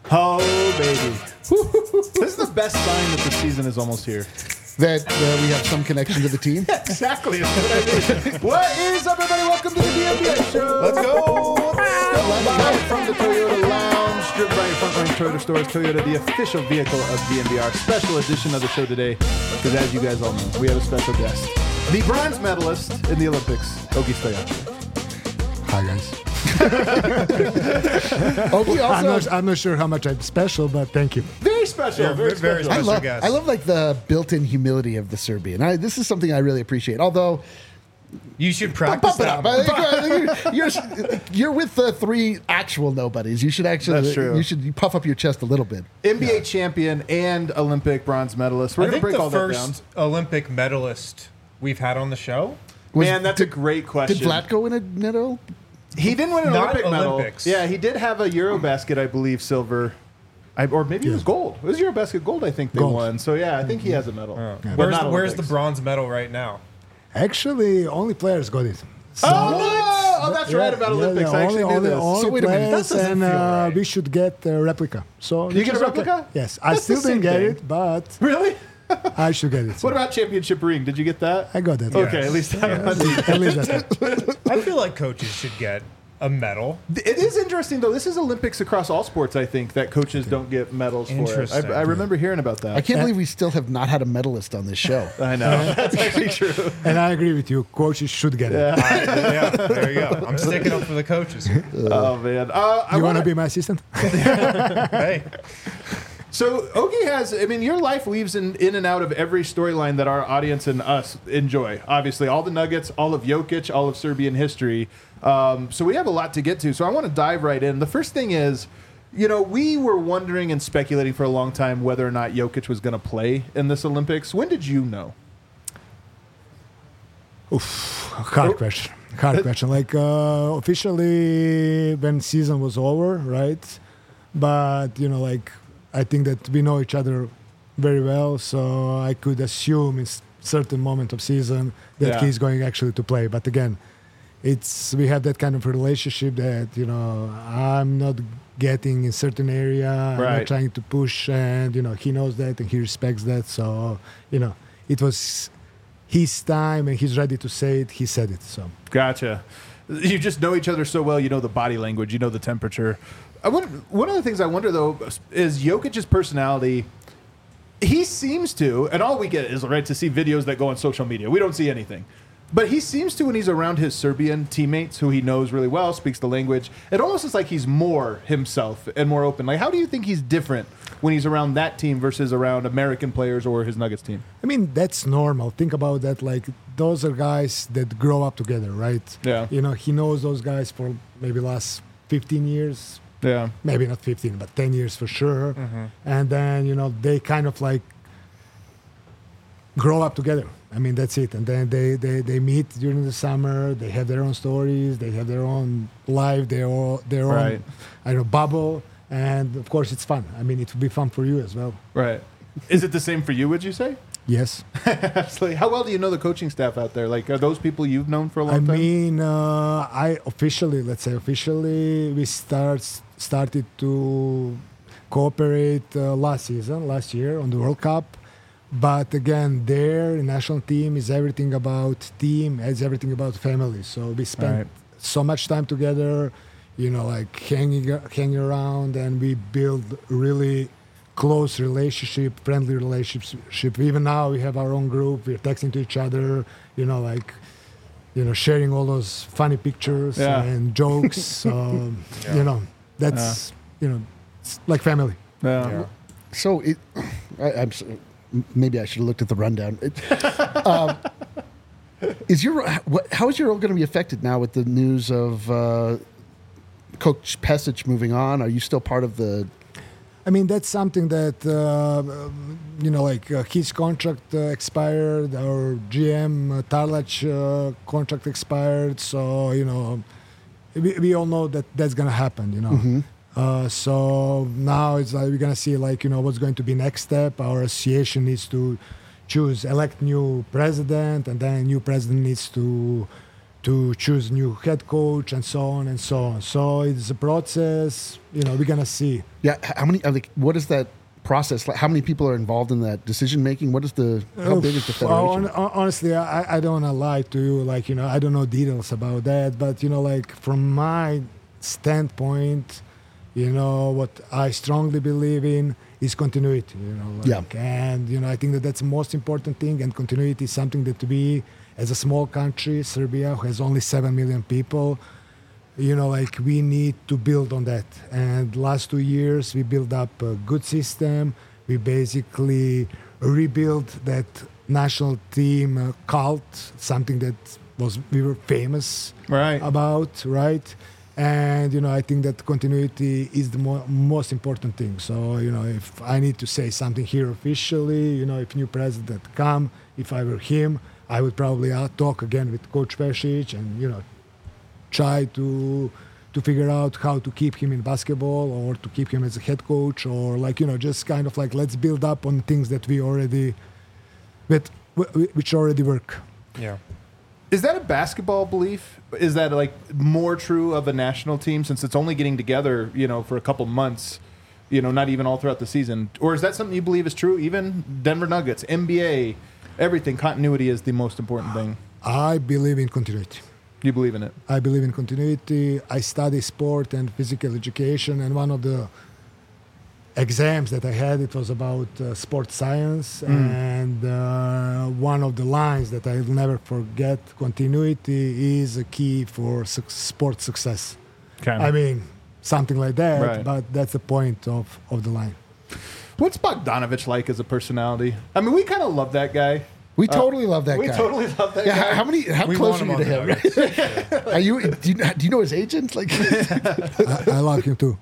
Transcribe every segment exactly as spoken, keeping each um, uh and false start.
Oh, baby. This is the best sign that the season is almost here. That uh, we have some connection to the team. Exactly. That's what I mean. What is up, everybody? Welcome to the D M B A Show. Let's go. Live from the Toyota Lounge, driven by your Frontline Toyota stores. Toyota, the official vehicle of D M B R. Special edition of the show today, because as you guys all know, we have a special guest. The bronze medalist in the Olympics, Ogie Stoyanovich. Hi, guys. Ogie also, I'm not, I'm not sure how much I'm special, but thank you. Very special. Yeah, very, very special. I special love, guest. I love like the built-in humility of the Serbian. I, this is something I really appreciate. Although, You should practice bump it that. up. You're, you're, you're with the three actual nobodies. You should actually, That's true. you should puff up your chest a little bit. N B A champion and Olympic bronze medalist. We're I going to think break the all that down. first Olympic medalist we've had on the show. Was- Man, that's a great question. Did Vlatko win a medal? He didn't win an Not Olympic medal. Olympics. Yeah, he did have a Eurobasket, I believe, silver. I, or maybe it was gold. It was Eurobasket gold, I think they Gold. won. So, yeah, I think he has a medal. Oh. But Where's, not the, where's the Olympics. bronze medal right now? Actually, only players got it. So, Oh, no! Oh, that's right about yeah, Olympics. yeah, I actually only, knew only, this. only So wait a minute, that players, doesn't and feel uh, right. we should get a replica. So You which get a is okay. replica? Yes, I That's the still same didn't get thing. it, but Really? I should get it. What about championship ring? Did you get that? I got that. Okay, Yes. at least I At least that. I feel like coaches should get a medal. It is interesting, though. This is Olympics across all sports, I think, that coaches don't get medals for it. Interesting. I, I remember hearing about that. I can't believe we still have not had a medalist on this show. I know. That's actually true. And I agree with you. Coaches should get it. Yeah, there you go. I'm sticking up for the coaches. Oh, man. Uh, I You want wanna- to be my assistant? Hey, So Ogie has, I mean, your life weaves in, in and out of every storyline that our audience and us enjoy. Obviously, all the Nuggets, all of Jokic, all of Serbian history. Um, so we have a lot to get to. So I want to dive right in. The first thing is, you know, we were wondering and speculating for a long time whether or not Jokic was going to play in this Olympics. When did you know? Hard question. Hard question. Like uh, officially, when season was over, right? But you know, like I think that we know each other very well, so I could assume in s- certain moment of season that Yeah. he's going actually to play. But again, it's we have that kind of relationship that you know I'm not getting in certain area. I'm Right. not trying to push, and you know he knows that and he respects that. So you know, it was his time and he's ready to say it. He said it. So. Gotcha. You just know each other so well. You know the body language. You know the temperature. I wonder, one of the things I wonder, though, is Jokic's personality. He seems to, and all we get is, right, to see videos that go on social media. We don't see anything. But he seems to, when he's around his Serbian teammates, who he knows really well, speaks the language, it almost is like he's more himself and more open. Like, how do you think he's different when he's around that team versus around American players or his Nuggets team? I mean, that's normal. Think about that. Like, those are guys that grow up together, right? Yeah. You know, he knows those guys for maybe last fifteen years, Yeah. maybe not fifteen, but ten years for sure. And then, you know, they kind of like grow up together. I mean, that's it. And then they, they, they meet during the summer. They have their own stories. They have their own life, their, own, their Right. own, I don't know, bubble. And, of course, it's fun. I mean, it will be fun for you as well. Right. Is it the same for you, would you say? Yes. Absolutely. How well do you know the coaching staff out there? Like, are those people you've known for a long I time? mean, uh, I officially, let's say officially, we start started to cooperate uh, last season, last year on the World Cup. But again, their national team is everything about team, it's everything about family. So we spent Right. so much time together, you know, like hanging hanging around, and we build really close relationship, friendly relationship. Even now, we have our own group. We're texting to each other, you know, like, you know, sharing all those funny pictures Yeah. and jokes. So, you know, that's, you know, it's like family. Yeah. So it, I, I'm s- maybe I should have looked at the rundown. It, um, is your what, how is your role going to be affected now with the news of uh, Coach Pesic moving on? Are you still part of the? I mean, that's something that, uh, um, you know, like uh, his contract uh, expired, our G M, uh, Tarlac, uh, contract expired. So, you know, we, we all know that that's going to happen, you know. Mm-hmm. Uh, so now it's like we're going to see, like, you know, what's going to be next step. Our association needs to choose, elect new president, and then new president needs to to choose new head coach and so on and so on. So it's a process. You know, we're gonna see. Yeah, h- how many? Are they, what is that process? Like, how many people are involved in that decision making? What is the? How big is the Well, federation? hon- hon- honestly, I, I don't want to lie to you. Like, you know, I don't know details about that. But, you know, like from my standpoint, you know, what I strongly believe in is continuity, you know. Like, Yeah. And, you know, I think that that's the most important thing. And continuity is something that we, as a small country, Serbia, who has only seven million people, you know, like we need to build on that. And last two years, we built up a good system. We basically rebuilt that national team uh, cult, something that was we were famous Right. about, right? And you know, I think that continuity is the mo- most important thing. So you know, if I need to say something here officially, you know, if new president come, if I were him, I would probably uh, talk again with Coach Pešić and you know, try to to figure out how to keep him in basketball or to keep him as a head coach or like you know, just kind of like let's build up on things that we already, that which already work. Yeah. Is that a basketball belief? Is that like more true of a national team since it's only getting together, you know, for a couple months, you know, not even all throughout the season? Or is that something you believe is true? Even Denver Nuggets, N B A, everything, continuity is the most important thing. I believe in continuity. You believe in it? I believe in continuity. I study sport and physical education, and one of the exams that I had, it was about uh, sports science, Mm. and uh, one of the lines that I'll never forget, continuity is a key for su- sports success. Okay. I mean, something like that, Right. but that's the point of, of the line. What's Bogdanovich like as a personality? I mean, we kind of love that guy. we totally love that we guy. totally love that Yeah, guy. how, how many? How We close want are you to him him? on the Right? Are you? Do you do you know his agent? Like, I, I love him too.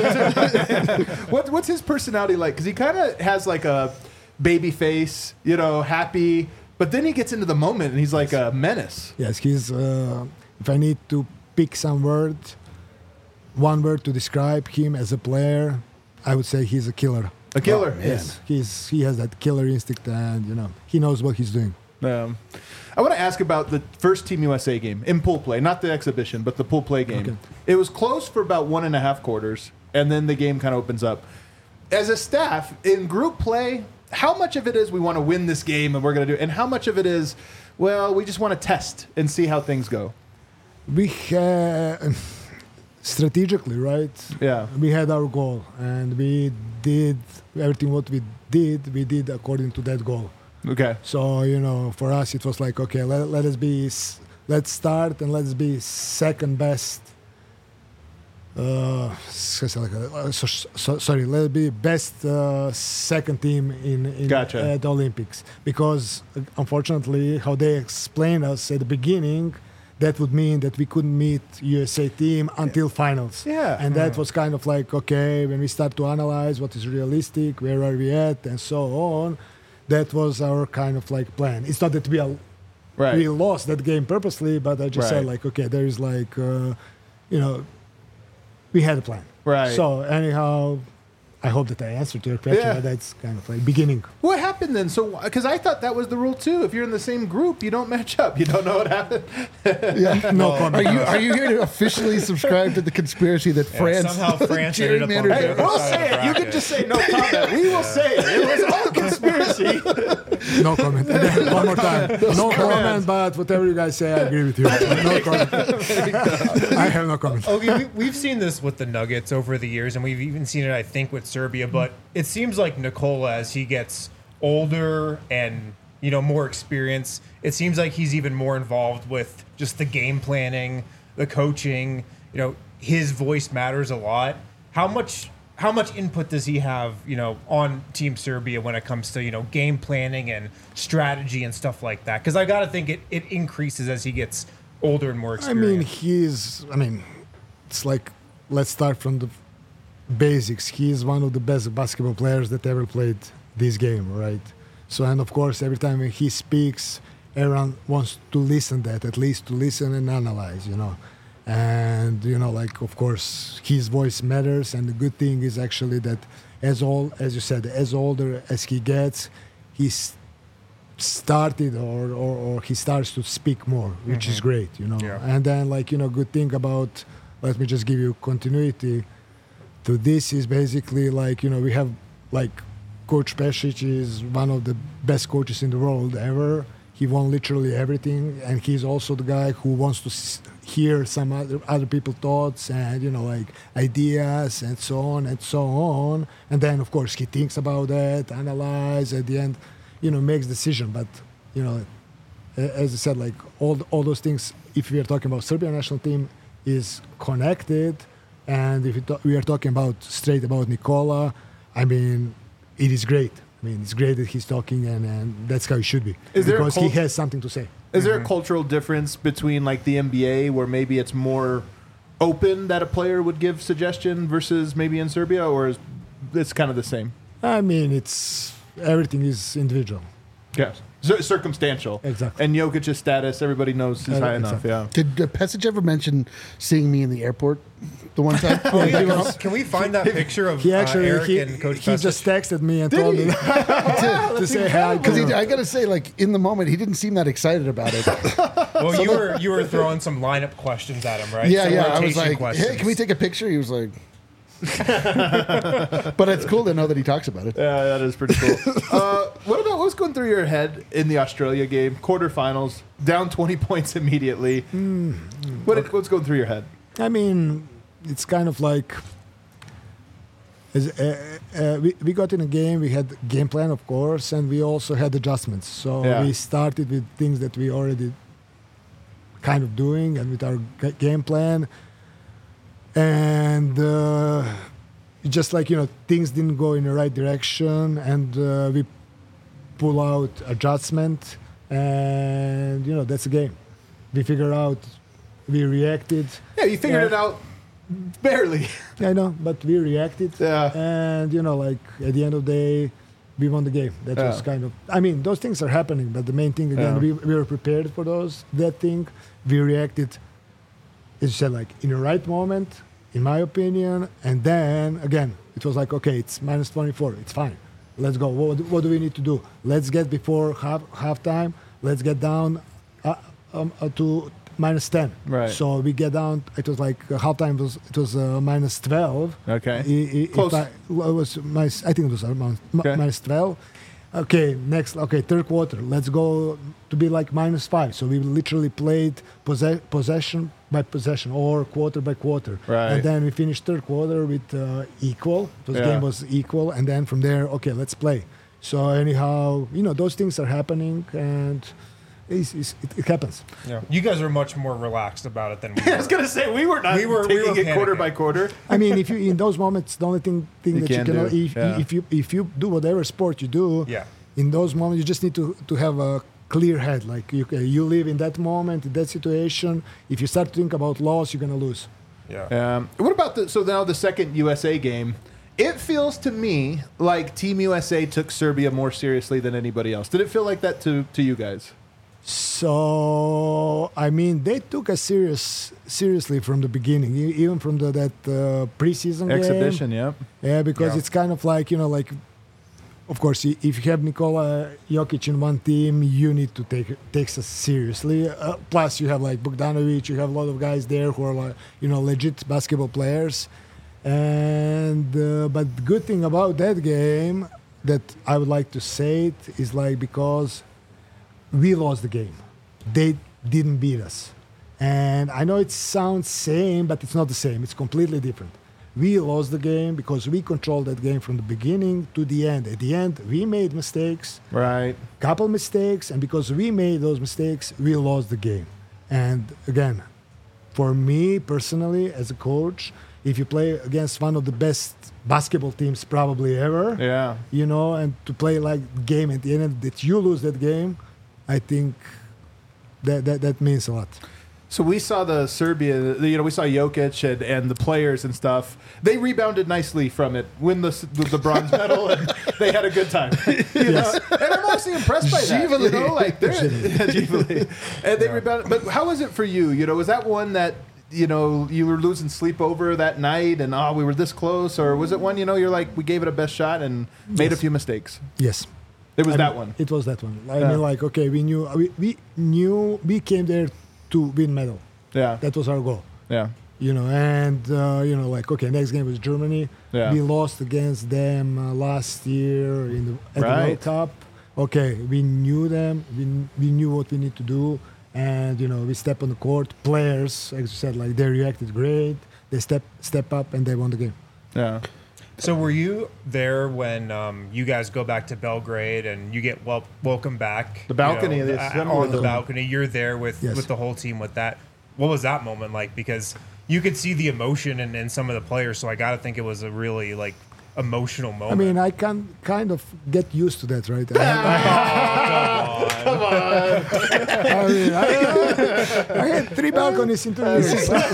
What, what's his personality like? Because he kind of has like a baby face, you know, happy, but then he gets into the moment and he's like a menace. Yes, he's. Uh, if I need to pick some word, one word to describe him as a player, I would say he's a killer. A killer. man. Yes, he's he has that killer instinct, and you know he knows what he's doing. Um, I want to ask about the first Team U S A game in pool play, not the exhibition, but the pool play game. Okay. It was close for about one and a half quarters, and then the game kind of opens up. As a staff, in group play, how much of it is we want to win this game and we're going to do, and how much of it is, well, we just want to test and see how things go? We had strategically, right? Yeah. We had our goal, and we did everything what we did. We did according to that goal. Okay. So you know, for us, it was like, okay, let, let us be, s- let's start and let's be second best. Uh, so, so, so, sorry, let's be best uh, second team in, in Gotcha. at the Olympics, because uh, unfortunately, how they explained us at the beginning, that would mean that we couldn't meet U S A team until finals. Yeah. And that was kind of like, okay, when we start to analyze what is realistic, where are we at, and so on, that was our kind of like plan. It's not that we are, Right. we lost that game purposely, but I just said Right. like, okay, there is like, uh, you know, we had a plan. Right. So anyhow, I hope that I answered your question, Yeah. but that's kind of like beginning. What happened then? So, because I thought that was the rule too. If you're in the same group, you don't match up. You don't know what happened. yeah. No Are comment. you are you here to officially subscribe to the conspiracy that Yeah, France somehow France ended up on gerrymandered the Hey, other we'll side say of the it. You can bracket. just say no comment. We will say it. It was all conspiracy. No comment. And then one more time. No comment, but whatever you guys say, I agree with you. No comment. I have no comment. Okay, we, we've seen this with the Nuggets over the years, and we've even seen it, I think, with Serbia. But it seems like Nikola, as he gets older and you know more experience, it seems like he's even more involved with just the game planning, the coaching. You know, his voice matters a lot. How much? How much input does he have, you know, on Team Serbia when it comes to, you know, game planning and strategy and stuff like that? Because I got to think it, it increases as he gets older and more I experienced. mean, he's, I mean, it's like, let's start from the basics. He's one of the best basketball players that ever played this game, right? So, and of course, every time he speaks, everyone wants to listen that, at least to listen and analyze, you know. And, you know, like, of course, his voice matters. And the good thing is actually that as old, as you said, as older as he gets, he's started or, or, or he starts to speak more, which is great, you know. Yeah. And then, like, you know, good thing about, let me just give you continuity to this is basically like, you know, we have like Coach Pešić is one of the best coaches in the world ever. He won literally everything, and he's also the guy who wants to s- hear some other other people's thoughts and, you know, like ideas and so on and so on. And then, of course, he thinks about that, analyze at the end, you know, makes decision. But, you know, a- as I said, like all all those things, if we are talking about Serbian national team, is connected. And if we, ta- we are talking about straight about Nikola, I mean, it is great. I mean, it's great that he's talking, and, and that's how it should be. Is there a because he cult- has something to say. Is there a cultural difference between like the N B A where maybe it's more open that a player would give suggestion versus maybe in Serbia, or is it's kind of the same? I mean, it's everything is individual. Yes. Cir- circumstantial. Exactly. And Jokic's status, everybody knows is Uh, high exactly. enough. Yeah. Did uh, Pesic ever mention seeing me in the airport the one time? Oh, yeah, can, can we find that picture of He actually uh, Eric he, and Coach he Pešić? just texted me and told me to say hi. Because to him. I gotta say, like in the moment, he didn't seem that excited about it. Well, you were you were throwing some lineup questions at him, right? yeah, Some yeah. I was rotation like, questions. "Hey, can we take a picture?" He was like, "But it's cool to know that he talks about it." Yeah, that is pretty cool. uh, what about what was going through your head in the Australia game, quarterfinals, down twenty points immediately? What, what's going through your head? I mean, it's kind of like as, uh, uh, we, we got in a game, we had game plan, of course, and we also had adjustments. So Yeah. we started with things that we already kind of doing and with our g- game plan. And uh, just like, you know, things didn't go in the right direction, and uh, we pull out adjustment, and, you know, that's the game. We figure out, we reacted. Yeah, you figured Yeah. it out barely. I know, but we reacted. Yeah. And, you know, like at the end of the day, we won the game. That was Yeah. kind of, I mean, those things are happening, but the main thing, again, Yeah. we, we were prepared for those, that thing. We reacted, as you said, like in the right moment, in my opinion. And then, again, it was like, okay, it's minus twenty-four. It's fine. Let's go. What, what do we need to do? Let's get before half halftime. Let's get down uh, um, uh, to minus ten. Right. So we get down. It was like uh, halftime was it was uh, minus twelve. Okay. I- I- if Close. I, well, it was minus, I think it was around mi- Okay. minus twelve. Okay, next. Okay, third quarter. Let's go to be like minus five. So we literally played posse- possession by possession or quarter by quarter. Right. And then we finished third quarter with uh, equal. This Yeah. game was equal, and then from there, okay, let's play. So anyhow, you know, those things are happening, and it's, it's, it, it happens. Yeah. You guys are much more relaxed about it than we I was were. gonna say we were not We were- we taking were it quarter panicking. by quarter. I mean, if you in those moments, the only thing, thing You that can you can, do, if, yeah. if you if you do whatever sport you do, Yeah. in those moments you just need to to have a clear head. Like you you live in that moment, in that situation. If you start to think about loss, you're gonna lose. Yeah. Um, what about the so now the second U S A game? It feels to me like Team U S A took Serbia more seriously than anybody else. Did it feel like that to to you guys? So I mean, they took us serious seriously from the beginning, e- even from the that uh, preseason game. Exhibition, yeah. Yeah, because Yeah. it's kind of like, you know, like, of course, i- if you have Nikola Jokic in one team, you need to take takes us seriously. Uh, plus, you have like Bogdanovic, you have a lot of guys there who are like, you know, legit basketball players. And uh, but the good thing about that game that I would like to say it is like because we lost the game, they didn't beat us. And I know it sounds same, but it's not the same. It's completely different. We lost the game because we controlled that game from the beginning to the end. At the end, we made mistakes, Right. couple mistakes, and because we made those mistakes, we lost the game. And again, for me personally, as a coach, if you play against one of the best basketball teams probably ever, Yeah. you know, and to play like game at the end that you lose that game, I think that that, that means a lot. So we saw the Serbia, the- you know, we saw Jokic and, and the players and stuff. They rebounded nicely from it, win the s- the, the bronze medal, and they had a good time. You know? And I'm honestly impressed by that. You know, like they're Givali. And they rebounded. But how was it for you? You know, was that one that you know you were losing sleep over that night, and oh, we were this close, or was it one you know you're like we gave it a best shot and made a Yes. few mistakes? Yes. It was I that mean, one. It was that one. I Yeah. mean, like, okay, we knew, we, we knew, we came there to win medal. Yeah. That was our goal. Yeah. You know, and uh, you know, like, okay, next game was Germany. Yeah. We lost against them uh, last year in the, at the Right. World Cup. Okay, we knew them. We we knew what we need to do, and you know, we step on the court. Players, as you said, like they reacted great. They step step up and they won the game. Yeah. So were you there when um, you guys go back to Belgrade and you get wel- welcome back? The balcony, you know, the the- assembly on the room. balcony. You're there with, Yes. with the whole team with that. What was that moment like? Because you could see the emotion in, in some of the players, so I got to think it was a really like emotional I moment. mean, I can kind of get used to that, right? I mean, I, I had three balconies in two years.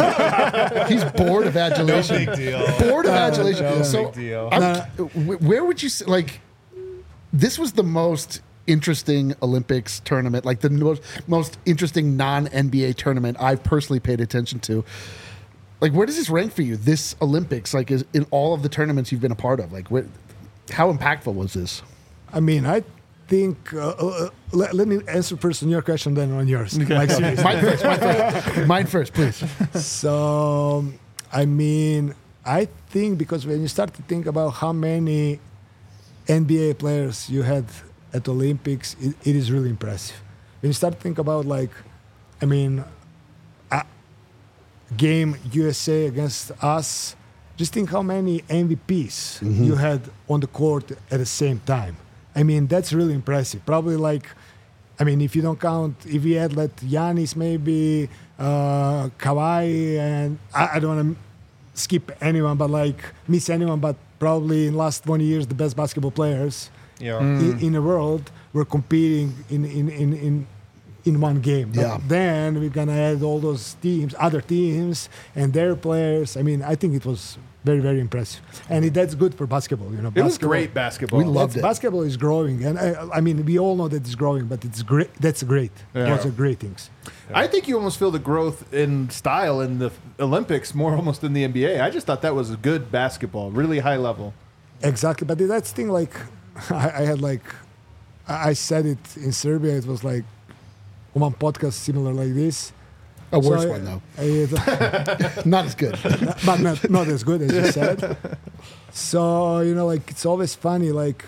He's bored of no adulation. big deal. Bored of adulation. no so, big deal. I'm- wh- where would you say, like, this was the most interesting Olympics tournament, like the most, most interesting non N B A tournament I've personally paid attention to. Like, where does this rank for you, this Olympics, like, is, in all of the tournaments you've been a part of? Like, where, how impactful was this? I mean, I think. Uh, uh, let, let me answer first on your question, then on yours. Like, seriously. Mine first, mine first. Mine first, please. So, I mean, I think because when you start to think about how many N B A players you had at the Olympics, it, it is really impressive. When you start to think about, like, I mean, a game U S A against us, just think how many M V Ps you had on the court at the same time. I mean, that's really impressive. Probably like, I mean, if you don't count, if we had let Giannis maybe, uh, Kawhi, and I, I don't want to skip anyone, but like miss anyone, but probably in last twenty years, the best basketball players Yeah. in, in the world were competing in in in in, in one game. But Yeah. then we're gonna add all those teams, other teams, and their players. I mean, I think it was very very impressive, and it, that's good for basketball. You know, It was basketball- great basketball. We loved that's- it. Basketball is growing, and I, I mean, we all know that it's growing, but it's great. That's great. Yeah. Those are great things. I think you almost feel the growth in style in the Olympics more almost than the N B A. I just thought that was a good basketball, really high level. Exactly, but that's the thing. Like, I, I had like, I I said it in Serbia. It was like one podcast similar like this. A worse So I- one, though. I- Not as good. but not, not as good as you said. So, you know, like, it's always funny, like,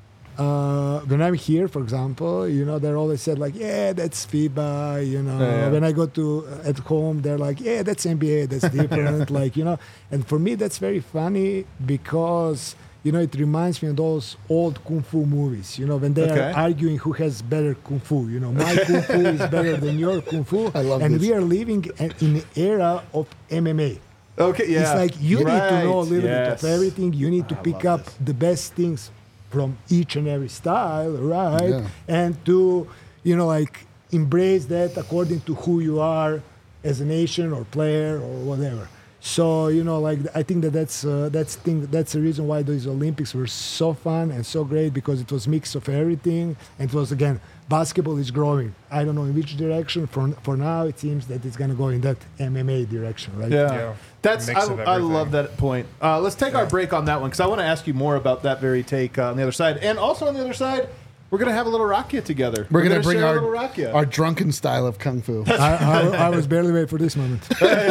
uh, when I'm here, for example, you know, they're always said, like, yeah, that's FIBA, you know. Yeah, yeah. When I go to, uh, at home, they're like, yeah, that's N B A, that's different, like, you know. And for me, that's very funny because, you know, it reminds me of those old Kung Fu movies, you know, when they Okay. are arguing who has better Kung Fu, you know, my Kung Fu is better than your Kung Fu. I love and this. we are living in an era of M M A. Okay, yeah. It's like you need to know a Right, little yes. bit of everything. You need to I pick love up this. the best things from each and every style, right? Yeah. And to, you know, like embrace that according to who you are as a nation or player or whatever. So, you know, like I think that that's uh, that's thing that's the reason why those Olympics were so fun and so great, because it was mix of everything, and it was, again, basketball is growing. I don't know in which direction. For for now, it seems that it's gonna go in that M M A direction, right? Yeah. Yeah. That's Mix I, of I everything. love that point. Uh, let's take our break on that one because I want to ask you more about that very take uh, on the other side. And also on the other side, we're gonna have a little rakia together. We're going to bring share our, a little rakia our drunken style of Kung Fu. I, I, I was barely waiting for this moment.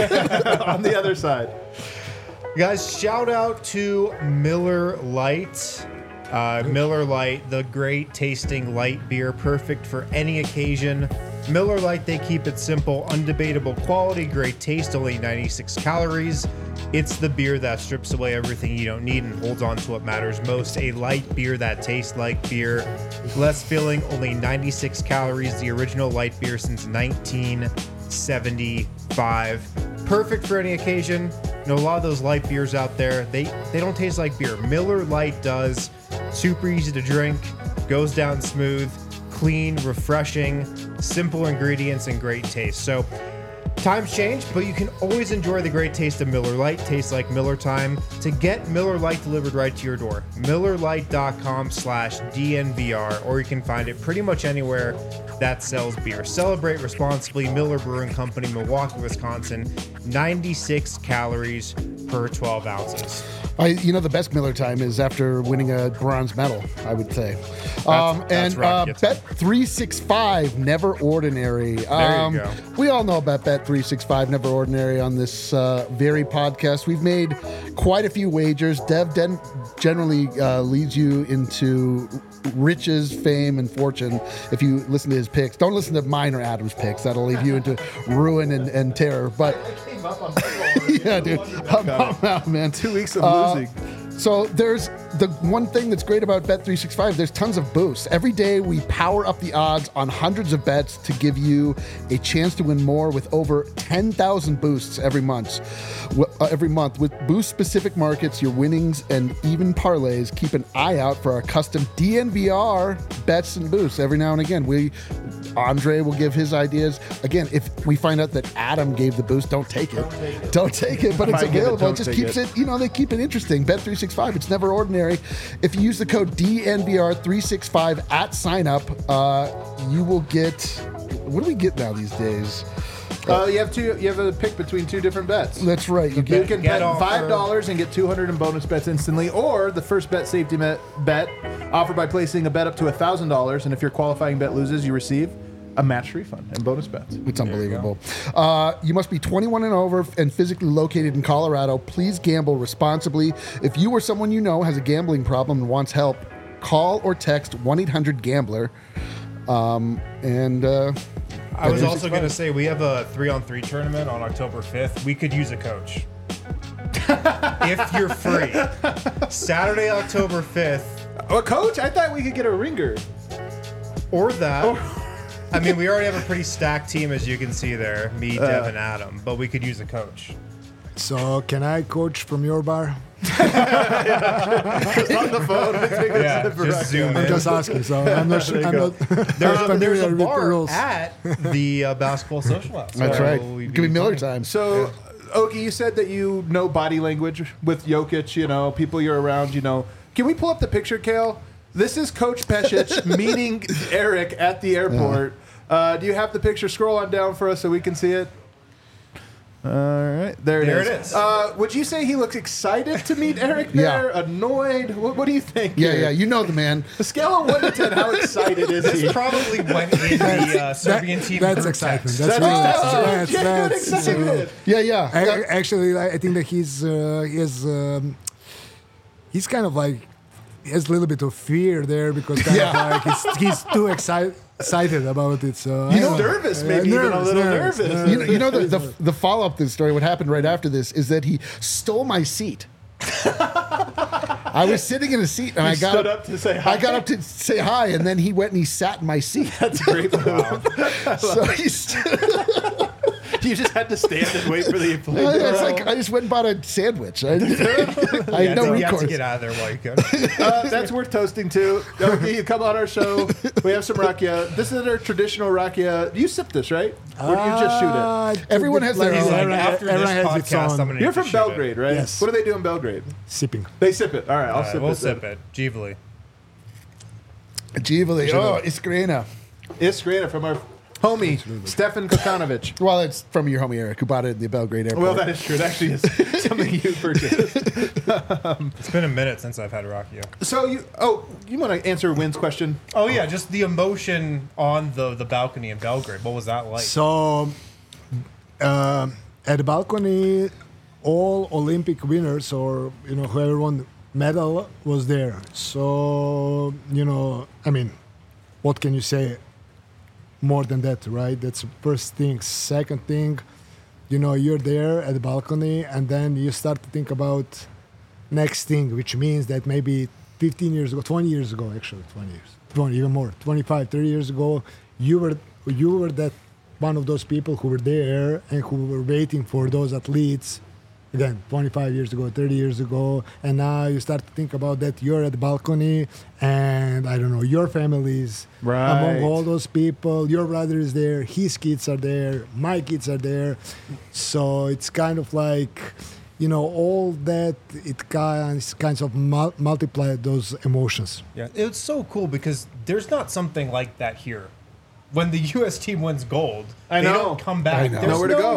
on the other side. Guys, shout out to Miller Lite. Uh, Miller Lite, the great tasting light beer, perfect for any occasion. Miller Lite, they keep it simple, undebatable quality, great taste, only ninety-six calories. It's the beer that strips away everything you don't need and holds on to what matters most. A light beer that tastes like beer. Less filling, only ninety-six calories. The original light beer since nineteen seventy-five. Perfect for any occasion. You know, a lot of those light beers out there, they, they don't taste like beer. Miller Lite does. Super easy to drink, goes down smooth, clean, refreshing, simple ingredients, and great taste. So, times change, but you can always enjoy the great taste of Miller Lite. Tastes like Miller time. To get Miller Lite delivered right to your door, miller lite dot com slash D N V R, or you can find it pretty much anywhere that sells beer. Celebrate responsibly. Miller Brewing Company, Milwaukee, Wisconsin. ninety-six calories per twelve ounces. I, you know, the best Miller time is after winning a bronze medal, I would say. Um, that's and uh, Rocky time. Bet three sixty-five, Never Ordinary. There Um, you go. We all know about Bet three sixty-five, Never Ordinary on this uh, very podcast. We've made quite a few wagers. Dev den- generally uh, leads you into riches, fame, and fortune if you listen to his picks. Don't listen to mine or Adam's picks. That'll leave you into ruin and, and terror. But yeah, dude, I'm, I'm out, man. Two weeks of Uh, losing. So there's the one thing that's great about Bet three sixty-five, there's tons of boosts. Every day we power up the odds on hundreds of bets to give you a chance to win more with over ten thousand boosts every month. W- uh, every month with boost specific markets, your winnings and even parlays. Keep an eye out for our custom D N V R bets and boosts every now and again. We Andre will give his ideas. Again, if we find out that Adam gave the boost, don't take it. Don't take it, don't take it but it's Might give it, available. It, don't just take keeps it. it, you know, they keep it interesting. Bet three sixty-five, it's never ordinary. If you use the code D N V R three sixty-five at sign up, uh, you will get, what do we get now these days? Uh, you have two. You have a pick between two different bets. That's right. You You get, can Get bet offer. five dollars and get two hundred in bonus bets instantly, or the first bet safety bet, bet offered by placing a bet up to a thousand dollars, and if your qualifying bet loses, you receive a match refund and bonus bets. It's unbelievable. Uh, you must be twenty-one and over and physically located in Colorado. Please gamble responsibly. If you or someone you know has a gambling problem and wants help, call or text one eight hundred gambler. Um, and uh, I was also going to say we have a three-on-three tournament on October fifth. We could use a coach. If you're free. Saturday, October fifth. Oh, coach, I thought we could get a ringer. Or that. I mean, we already have a pretty stacked team, as you can see there. Me, Dev, and Adam. But we could use a coach. So can I coach from your bar? Just on the phone. Take a Yeah, sip for just Rocky. zoom I'm in. just asking. So I'm not sure. I'm go. not There's a, familiar there's a with the bar rules. at the uh, basketball social house. that's So right. we'd Give me Miller fine. time. So, Oki, you said that you know body language with Jokic, you know, people you're around, you know. Can we pull up the picture, Kale? This is Coach Pesic meeting Eric at the airport. Uh, do you have the picture? Scroll on down for us so we can see it. All right, there it There is. it is. Uh, would you say he looks excited to meet Eric Yeah. there? Annoyed? What, what do you think? Yeah, here? yeah, you know the man. A scale of one to ten, how excited is he? This probably went in the uh, Serbian team. That's group excitement. text. That's That's really oh, that's, genuine that's, excitement. Yeah, yeah. I, yeah. actually, I I think that he's uh, he has um, he's kind of like he has a little bit of fear there because kind Yeah. of like he's, he's too excited excited about it. So I He's don't know. nervous, Uh, maybe even a little nervous. You know, you know the, the, the follow up to the story, what happened right after this is that he stole my seat. I was sitting in a seat and I got stood up to say hi? I got up to say hi, and then he went and he sat in my seat. That's a great move. So he's, You just had to stand and wait for the plane I, to it's roll. like I just went and bought a sandwich. I, I Yeah, had no so you have to recourse. get out of there while you can. Uh, that's worth toasting too. Okay, you come on our show. We have some rakia. This is our traditional rakia. You sip this, right? Or do you just shoot it? Uh, Everyone has their like, own. Like, everyone- after this everyone has its podcast, own I'm gonna You're need to from shoot Belgrade, right? Yes. What do they do in Belgrade? sipping. They sip it. All right, I'll All right, sip we'll it. sip it. Givli. Givali. Oh, Iskrena. Iskrena from our homie, Stefan Kokanovic. Well, it's from your homie Eric, who bought it at the Belgrade airport. Well, that is true. It actually is something you purchased. It's been a minute since I've had Rakia. So you, oh, you want to answer Wynn's question? Oh yeah, just the emotion on the the balcony in Belgrade. What was that like? So uh, at the balcony, all Olympic winners or you know whoever won medal was there. So you know, I mean, what can you say more than that, right? That's the first thing. Second thing, you know, you're there at the balcony, and then you start to think about next thing, which means that maybe fifteen years ago, twenty years ago, actually, twenty years, twenty, even more, twenty-five, thirty years ago, you were you were that one of those people who were there and who were waiting for those athletes. Again, twenty-five years ago, thirty years ago, and now you start to think about that you're at the balcony, and I don't know, your families Right. among all those people. Your brother is there, his kids are there, my kids are there. So it's kind of like, you know, all that it kinds kinds of mul- multiply those emotions. Yeah, it's so cool because there's not something like that here. When the U S team wins gold, I they know. don't come back. I know. There's Nowhere to no, go.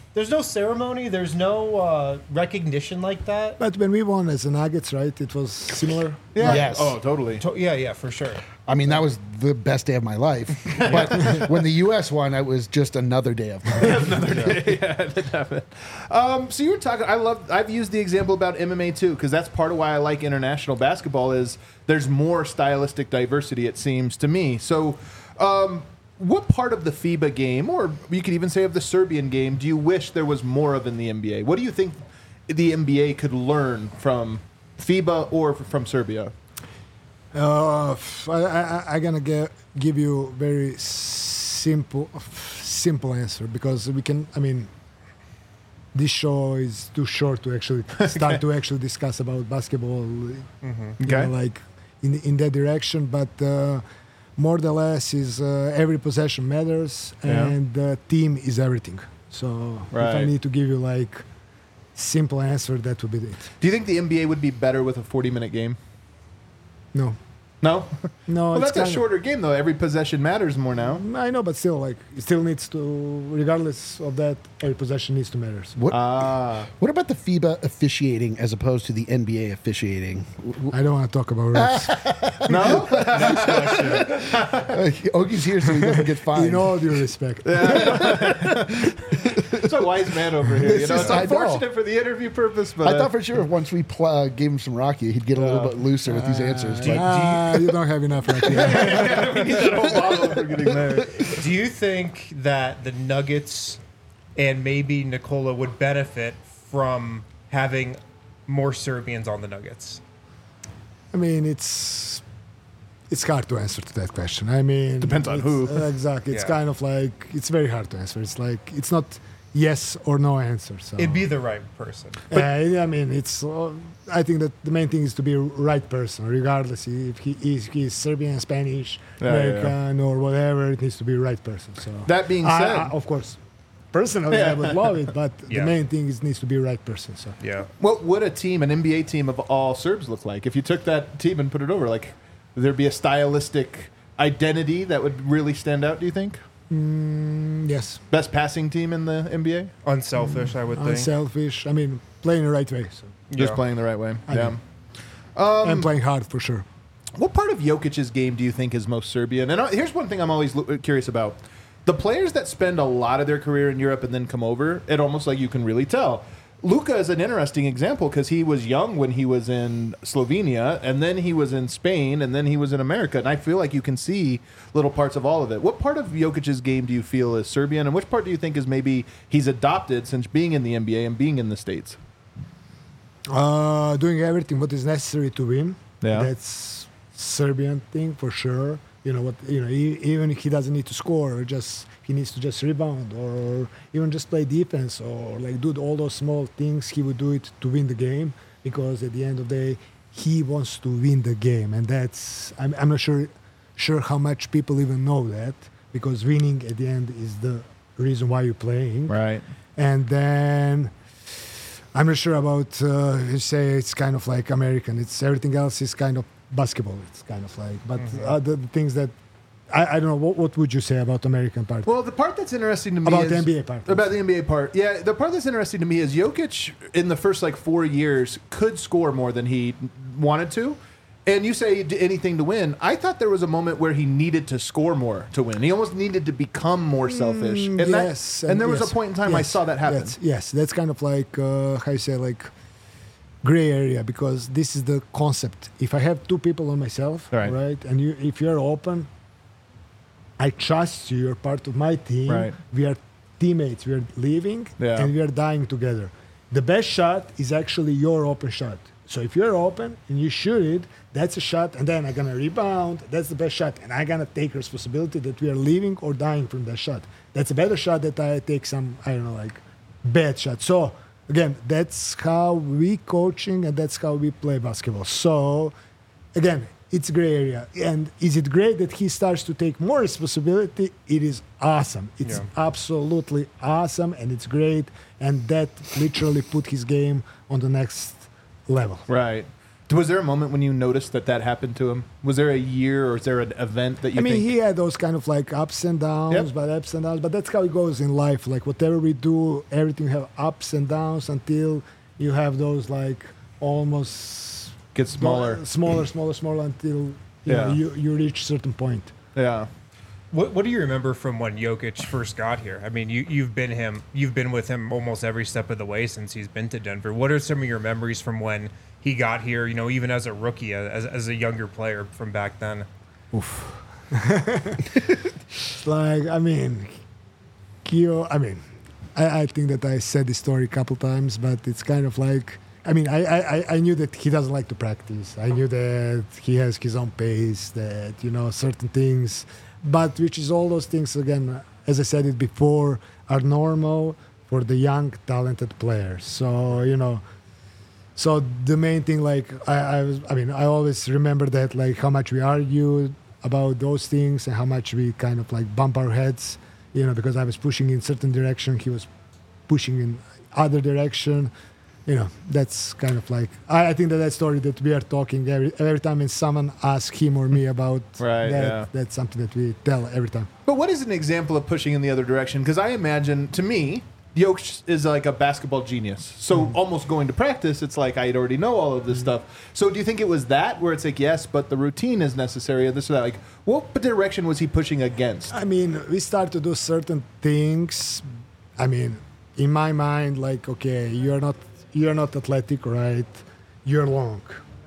there's no ceremony. There's no uh, recognition like that. But when we won as the Nuggets, right, it was similar. Yeah. Yes. Oh, totally. To- yeah, yeah, for sure. I mean, that was the best day of my life. But when the U S won, it was just another day of my life. yeah, that happened. Um, so you were talking. I love. I've used the example about M M A too, because that's part of why I like international basketball. Is there's more stylistic diversity. It seems to me. So, um, what part of the FIBA game, or you could even say of the Serbian game, do you wish there was more of in the N B A? What do you think the N B A could learn from FIBA or from Serbia? Uh, f- I, I, I'm gonna get, give you very simple, simple answer because we can. I mean, this show is too short to actually start to actually discuss about basketball. Mm-hmm. You Okay. know, like in in that direction, but uh, more or less is uh, every possession matters Yeah. and the team is everything. So if I Right. need to give you like simple answer, that would be it. Do you think the N B A would be better with a forty minute game? No, No. no. Well, it's that's a kinda- shorter game though. Every possession matters more now. I know, but still, like, it still needs to, regardless of that, every possession needs to matter. What, Ah. what about the FIBA officiating as opposed to the N B A officiating? I don't want to talk about refs. No. Ogie's here so he doesn't get fined. In all due respect. It's a wise man over here. You It's know, just- it's I know. unfortunate for the interview purpose, but I thought for sure once we pl- uh, gave him some Rocky, he'd get a little Uh, bit looser with these answers. do you- But Ah, you don't have enough right here. we need that whole bottle for getting there. Do you think that the Nuggets and maybe Nikola would benefit from having more Serbians on the Nuggets? I mean, it's it's hard to answer to that question. I mean, Depends on it's- who. uh, exactly. It's Yeah. kind of like, it's very hard to answer. It's like, it's not yes or no answer. So. It'd be the right person. Uh, I mean, it's. Uh, I think that the main thing is to be a right person, regardless if he is he's Serbian, Spanish, Yeah, yeah, American, or whatever. It needs to be a right person. So That being I- said, I- of course, personally, I would love it, but Yeah. the main thing is needs to be a right person. So Yeah. what would a team, an N B A team of all Serbs look like? If you took that team and put it over, like, would there be a stylistic identity that would really stand out, do you think? mm, yes, Best passing team in the N B A? Unselfish, I would think. unselfish. I mean, playing the right way. So Just Yeah. playing the right way. I yeah. mean- Um, and playing hard for sure. What part of Jokic's game do you think is most Serbian? And uh, here's one thing I'm always lo- curious about. The players that spend a lot of their career in Europe and then come over, it almost like you can really tell. Luka is an interesting example because he was young when he was in Slovenia, and then he was in Spain, and then he was in America. And I feel like you can see little parts of all of it. What part of Jokic's game do you feel is Serbian, and which part do you think is maybe he's adopted since being in the N B A and being in the States? Uh, doing everything what is necessary to win. Yeah. That's Serbian thing for sure. You know what? You know, e- even if he doesn't need to score, or just he needs to just rebound, or even just play defense, or like do all those small things. He would do it to win the game because at the end of the day, he wants to win the game, and that's I'm, I'm not sure sure how much people even know that because winning at the end is the reason why you're playing. Right. And then I'm not sure about uh, you say it's kind of like American. It's everything else is kind of basketball. It's kind of like, but uh, the, the things that I, I don't know. What, what would you say about American part? Well, the part that's interesting to me About is the N B A part. About the N B A part, yeah. The part that's interesting to me is Jokic in the first like four years could score more than he wanted to, and you say he did anything to win. I thought there was a moment where he needed to score more to win. He almost needed to become more selfish. Mm, and yes, that, and there was yes, a point in time I yes, saw that happen. Yes, yes, that's kind of like uh, how you say like gray area because this is the concept. If I have two people on myself, Right. right, and you, if you're open, I trust you. You're part of my team. Right. We are teammates. We are living Yeah. and we are dying together. The best shot is actually your open shot. So if you're open and you shoot it, that's a shot, and then I'm gonna rebound. That's the best shot, and I'm gonna take responsibility that we are living or dying from that shot. That's a better shot that I take some I don't know like bad shot. So again, that's how we coaching and that's how we play basketball. So again, it's gray area. And is it great that he starts to take more responsibility? It is awesome. It's Yeah. absolutely awesome, and it's great. And that literally put his game on the next level. Right. Was there a moment when you noticed that that happened to him? Was there a year or is there an event that you I mean, think? he had those kind of like ups and downs, Yep. but ups and downs. But that's how it goes in life. Like whatever we do, everything have ups and downs until you have those like almost Gets smaller. smaller, smaller, smaller until you Yeah. know, you you reach a certain point. Yeah. What What do you remember from when Jokic first got here? I mean, you you've been him, you've been with him almost every step of the way since he's been to Denver. What are some of your memories from when he got here? You know, even as a rookie, as as a younger player from back then. It's like I mean, Kyo. I mean, I, I think that I said this story a couple times, but it's kind of like. I mean, I, I, I knew that he doesn't like to practice. I knew that he has his own pace, that, you know, certain things, but which is all those things, again, as I said it before, are normal for the young, talented players. So, you know, so the main thing, like, I, I, was, I mean, I always remember that, like, how much we argued about those things and how much we kind of, like, bump our heads, you know, because I was pushing in certain direction, he was pushing in other direction. You know, that's kind of like I, I think that that story that we are talking every every time when someone asks him or me about Right, that, yeah. that's something that we tell every time. But what is an example of pushing in the other direction? Because I imagine, to me, Jokic is like a basketball genius. So almost going to practice, it's like I already know all of this stuff. So do you think it was that where it's like, yes, but the routine is necessary and this or that? Like, what direction was he pushing against? I mean, we start to do certain things. I mean, in my mind, like, okay, you're not you're not athletic, right? You're long.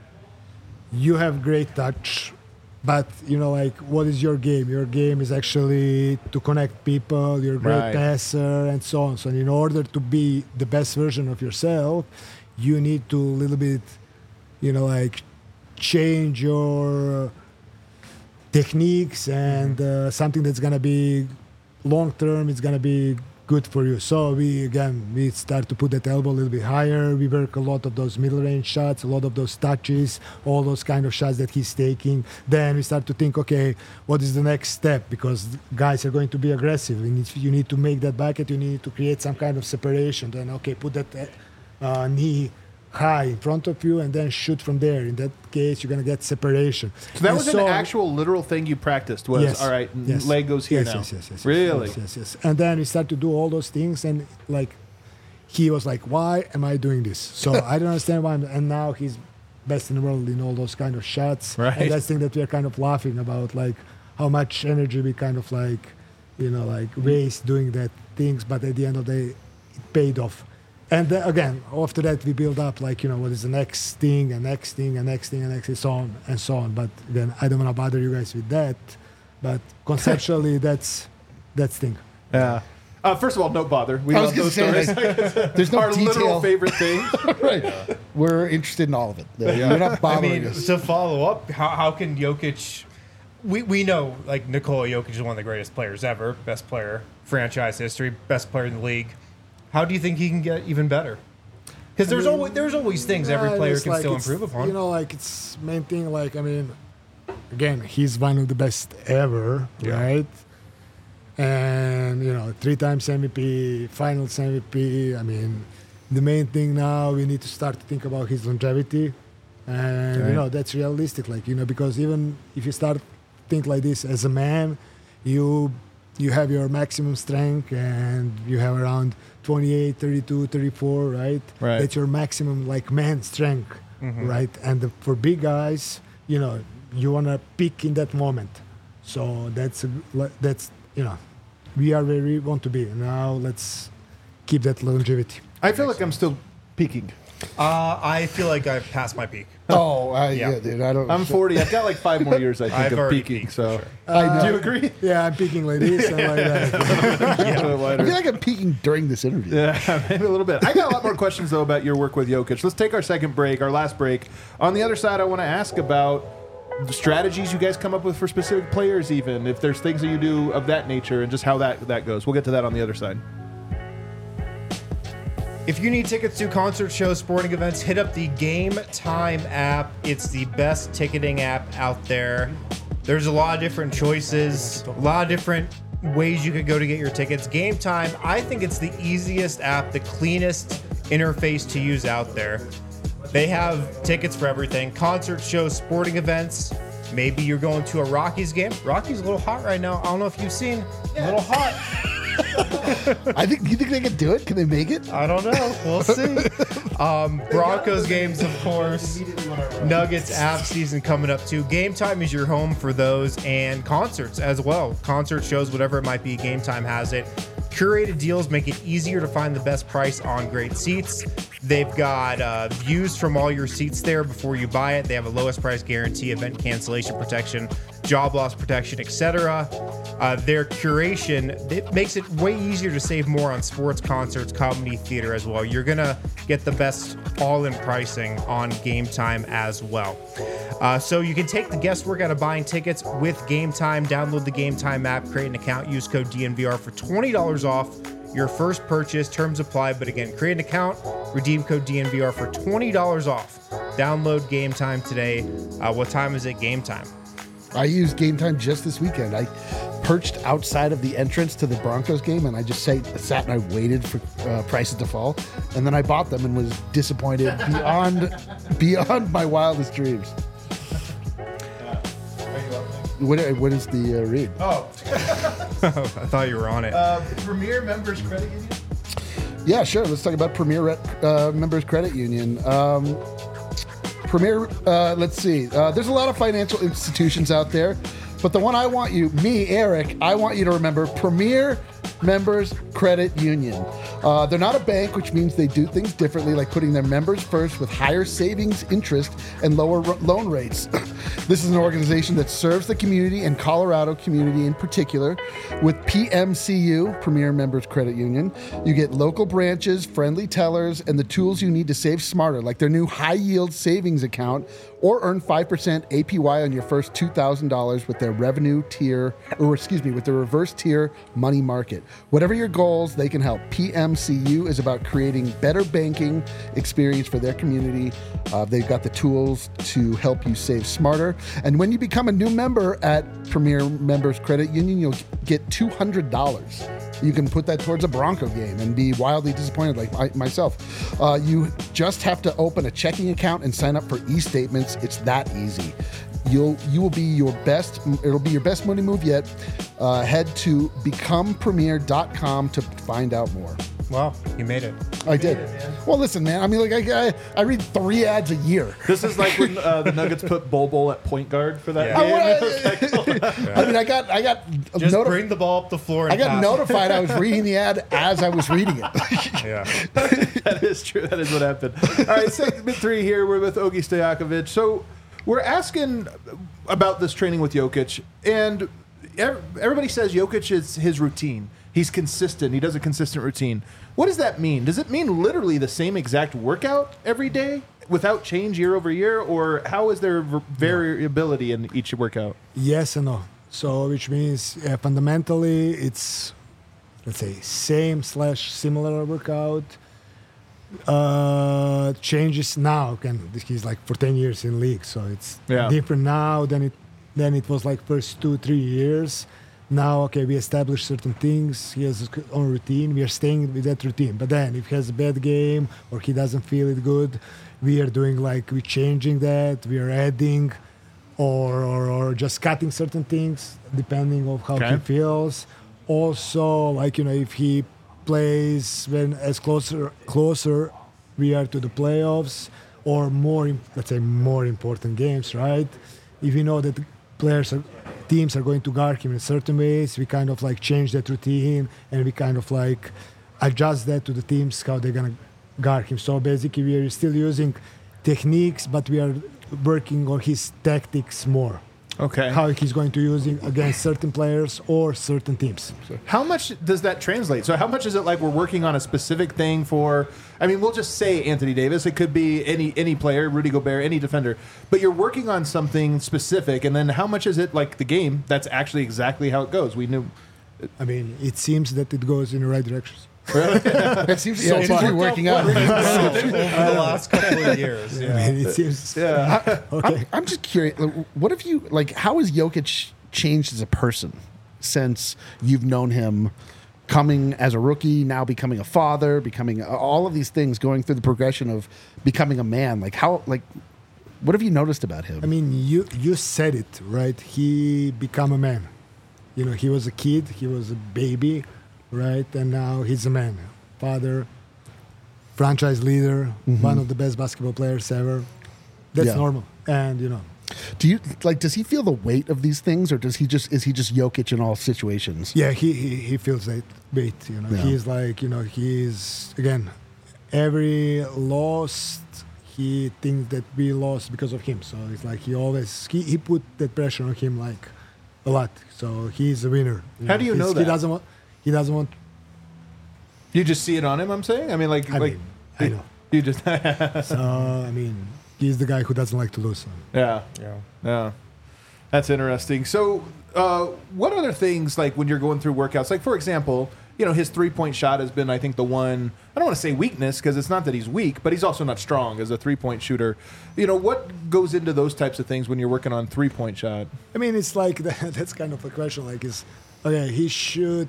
You have great touch, but you know, like, what is your game? Your game is actually to connect people. You're a great Right. passer, and so on. So, in order to be the best version of yourself, you need to a little bit, you know, like, change your techniques and uh, something that's gonna be long term. It's gonna be good for you. So we again we start to put that elbow a little bit higher. We work a lot of those middle range shots, a lot of those touches, all those kind of shots that he's taking. Then we start to think, okay, what is the next step? Because guys are going to be aggressive. You need, you need to make that bucket. You need to create some kind of separation. Then okay, put that uh, knee high in front of you and then shoot from there. In that case, you're gonna get separation. So that And was so- an actual literal thing you practiced was, Yes. all right, Yes. leg goes here yes, now. Yes, yes, yes, yes. Really? Yes, yes, yes. And then we start to do all those things, and like, he was like, "Why am I doing this?" So I don't understand why. I'm, and now he's best in the world in all those kind of shots. Right. And that's the thing that we are kind of laughing about, like how much energy we kind of like, you know, like waste doing that things, but at the end of the day, it paid off. And then, again, after that, we build up, like, you know, what is the next thing, and next thing, and next thing, and next thing, so on and so on. But again, I don't want to bother you guys with that. But conceptually, that's that's thing. Yeah. Uh, first of all, no bother. We I love was going those to say, stories. like, there's no Our literal detail. favorite thing. Right. We're interested in all of it. You're not I bothering mean, us. to follow up, how, how can Jokic? We we know like Nikola Jokic is one of the greatest players ever, best player franchise history, best player in the league. How do you think he can get even better? Because there's mean, always there's always things every Yeah, player it's can like still it's- improve upon. You know, like it's main thing. Like I mean, again, he's one of the best ever, Yeah. right? And you know, three times M V P, Finals M V P. I mean, the main thing now we need to start to think about his longevity, and Right. you know that's realistic. Like you know, because even if you start think like this as a man, you you have your maximum strength and you have around twenty-eight, thirty-two, thirty-four, right? Right. That's your maximum like man strength, right? And the, for big guys, you know, you want to peak in that moment. So that's a, that's you know, we are where we want to be. Now let's keep that longevity. I feel like I'm still peaking. uh, I feel like I've passed my peak. Oh, I, Yeah. yeah. dude. I don't. I'm forty. I've got like five more years, I think, I've of already peaking. peaked, So, for sure. I do you know. agree? Yeah, I'm peaking like this and like that. I feel like I'm peaking during this interview. Yeah, maybe a little bit. I got a lot more questions, though, about your work with Jokic. Let's take our second break, our last break. On the other side, I want to ask about the strategies you guys come up with for specific players, even if there's things that you do of that nature, and just how that, that goes. We'll get to that on the other side. If you need tickets to concert shows, sporting events, hit up the Game Time app. It's the best ticketing app out there. There's a lot of different choices, a lot of different ways you could go to get your tickets. Game Time, I think it's the easiest app, the cleanest interface to use out there. They have tickets for everything: concert shows, sporting events. Maybe you're going to a Rockies game. Rockies a little hot right now. I don't know if you've seen. A little hot. I think. You think they can do it? Can they make it? I don't know. We'll see. Um, Broncos games, of course. Nuggets app season coming up too. Game Time is your home for those, and concerts as well. Concert shows, whatever it might be, Game Time has it. Curated deals make it easier to find the best price on great seats. They've got uh, views from all your seats there before you buy it. They have a lowest price guarantee, event cancellation protection, job loss protection, et cetera. Uh, their curation, it makes it way easier to save more on sports, concerts, comedy, theater as well. You're going to get the best all-in pricing on Game Time as well. Uh, so you can take the guesswork out of buying tickets with Game Time. Download the Game Time app, create an account, use code D N V R for twenty dollars off your first purchase. Terms apply, but again, create an account, redeem code D N V R for twenty dollars off. Download Game Time today. Uh, what time is it? Game Time. I used Game Time just this weekend. I perched outside of the entrance to the Broncos game, and I just sat, sat and I waited for uh, prices to fall, and then I bought them and was disappointed beyond beyond my wildest dreams. What, what is the uh, read? Oh, I thought you were on it. uh, Premier Members Credit Union. Yeah, sure. Let's talk about Premier uh, Members Credit Union. Um, Premier, uh, let's see. Uh, there's a lot of financial institutions out there, but the one I want you, me, Eric, I want you to remember Premier Members Credit Union. Uh, they're not a bank, which means they do things differently, like putting their members first with higher savings interest and lower r- loan rates. This is an organization that serves the community and Colorado community in particular. With P M C U, Premier Members Credit Union, you get local branches, friendly tellers, and the tools you need to save smarter, like their new high-yield savings account, or earn five percent A P Y on your first two thousand dollars with their revenue tier, or excuse me, with the reverse tier money market. Whatever your goals, they can help. P M C U is about creating better banking experience for their community. Uh, they've got the tools to help you save smarter. And when you become a new member at Premier Members Credit Union, you'll get two hundred dollars. You can put that towards a Bronco game and be wildly disappointed like I, myself. Uh, you just have to open a checking account and sign up for e-statements. It's that easy. You'll you will be your best. It'll be your best money move yet. Uh, head to become premier dot com to find out more. Wow, you made it. I did. Well, listen, man. I mean, like I, I, I read three ads a year. This is like when uh, the Nuggets put Bol Bol at point guard for that Yeah. game. I mean, I got I got Just notif- bring the ball up the floor and I got pass it. notified I was reading the ad as I was reading it. Yeah. That is true. That is what happened. All right, segment three here. We're with Ogi Stojakovic. So we're asking about this training with Jokic, and ev- everybody says Jokic is his routine. He's consistent. He does a consistent routine. What does that mean? Does it mean literally the same exact workout every day without change year over year, or how is there v- variability in each workout? Yes and no. So, which means uh, fundamentally it's, let's say, same slash similar workout. Uh, changes now. Again, he's like for ten years in league, so it's Yeah. different now than it than it was like first two three years. Now, okay, we established certain things. He has his own routine. We are staying with that routine. But then, if he has a bad game or he doesn't feel it good, we are doing like we're changing that. We are adding, or or, or just cutting certain things depending on how Okay. he feels. Also, like you know, if he plays when as closer closer we are to the playoffs or more, im- let's say more important games, right? If we know that players are teams are going to guard him in certain ways, we kind of like change that routine and we kind of like adjust that to the teams how they're gonna guard him. So basically, we are still using techniques, but we are working on his tactics more. Okay. How he's going to use it against certain players or certain teams. How much does that translate? So how much is it like we're working on a specific thing for, I mean, we'll just say Anthony Davis. It could be any any player, Rudy Gobert, any defender. But you're working on something specific, and then how much is it like the game? That's actually exactly how it goes. We knew. I mean, it seems that it goes in the right directions. It seems, yeah, it seems to be working out. over the last couple of years. I Yeah. mean, it seems Yeah. okay. I'm, I'm just curious. like, What have you like? How has Jokic changed as a person since you've known him? coming as a rookie, now becoming a father, becoming all of these things, going through the progression of becoming a man. Like how, like, what have you noticed about him? I mean, you you said it right. He become a man. You know, he was a kid, he was a baby, right, and now he's a man, father, franchise leader, Mm-hmm. one of the best basketball players ever. That's Yeah. normal, and you know, Do you like? Does he feel the weight of these things, or does he just is he just Jokic in all situations? yeah, he he, he feels that weight. You know, Yeah. he's like, you know, he's again, every loss he thinks that we lost because of him. So it's like he always he, he put that pressure on him like a lot. So he's a winner. How do you He's- know He that? doesn't want. He doesn't want. You just see it on him. I'm saying. I mean, like, I like mean, I know. you just. So I mean, he's the guy who doesn't like to lose. So. yeah. Yeah. Yeah, that's interesting. So, uh, what other things like when you're going through workouts? Like, for example, you know, his three point shot has been, I think, the one. I don't want to say weakness because it's not that he's weak, but he's also not strong as a three point shooter. You know, what goes into those types of things when you're working on three point shot? I mean, it's like that's kind of a question. Like, is okay? He should,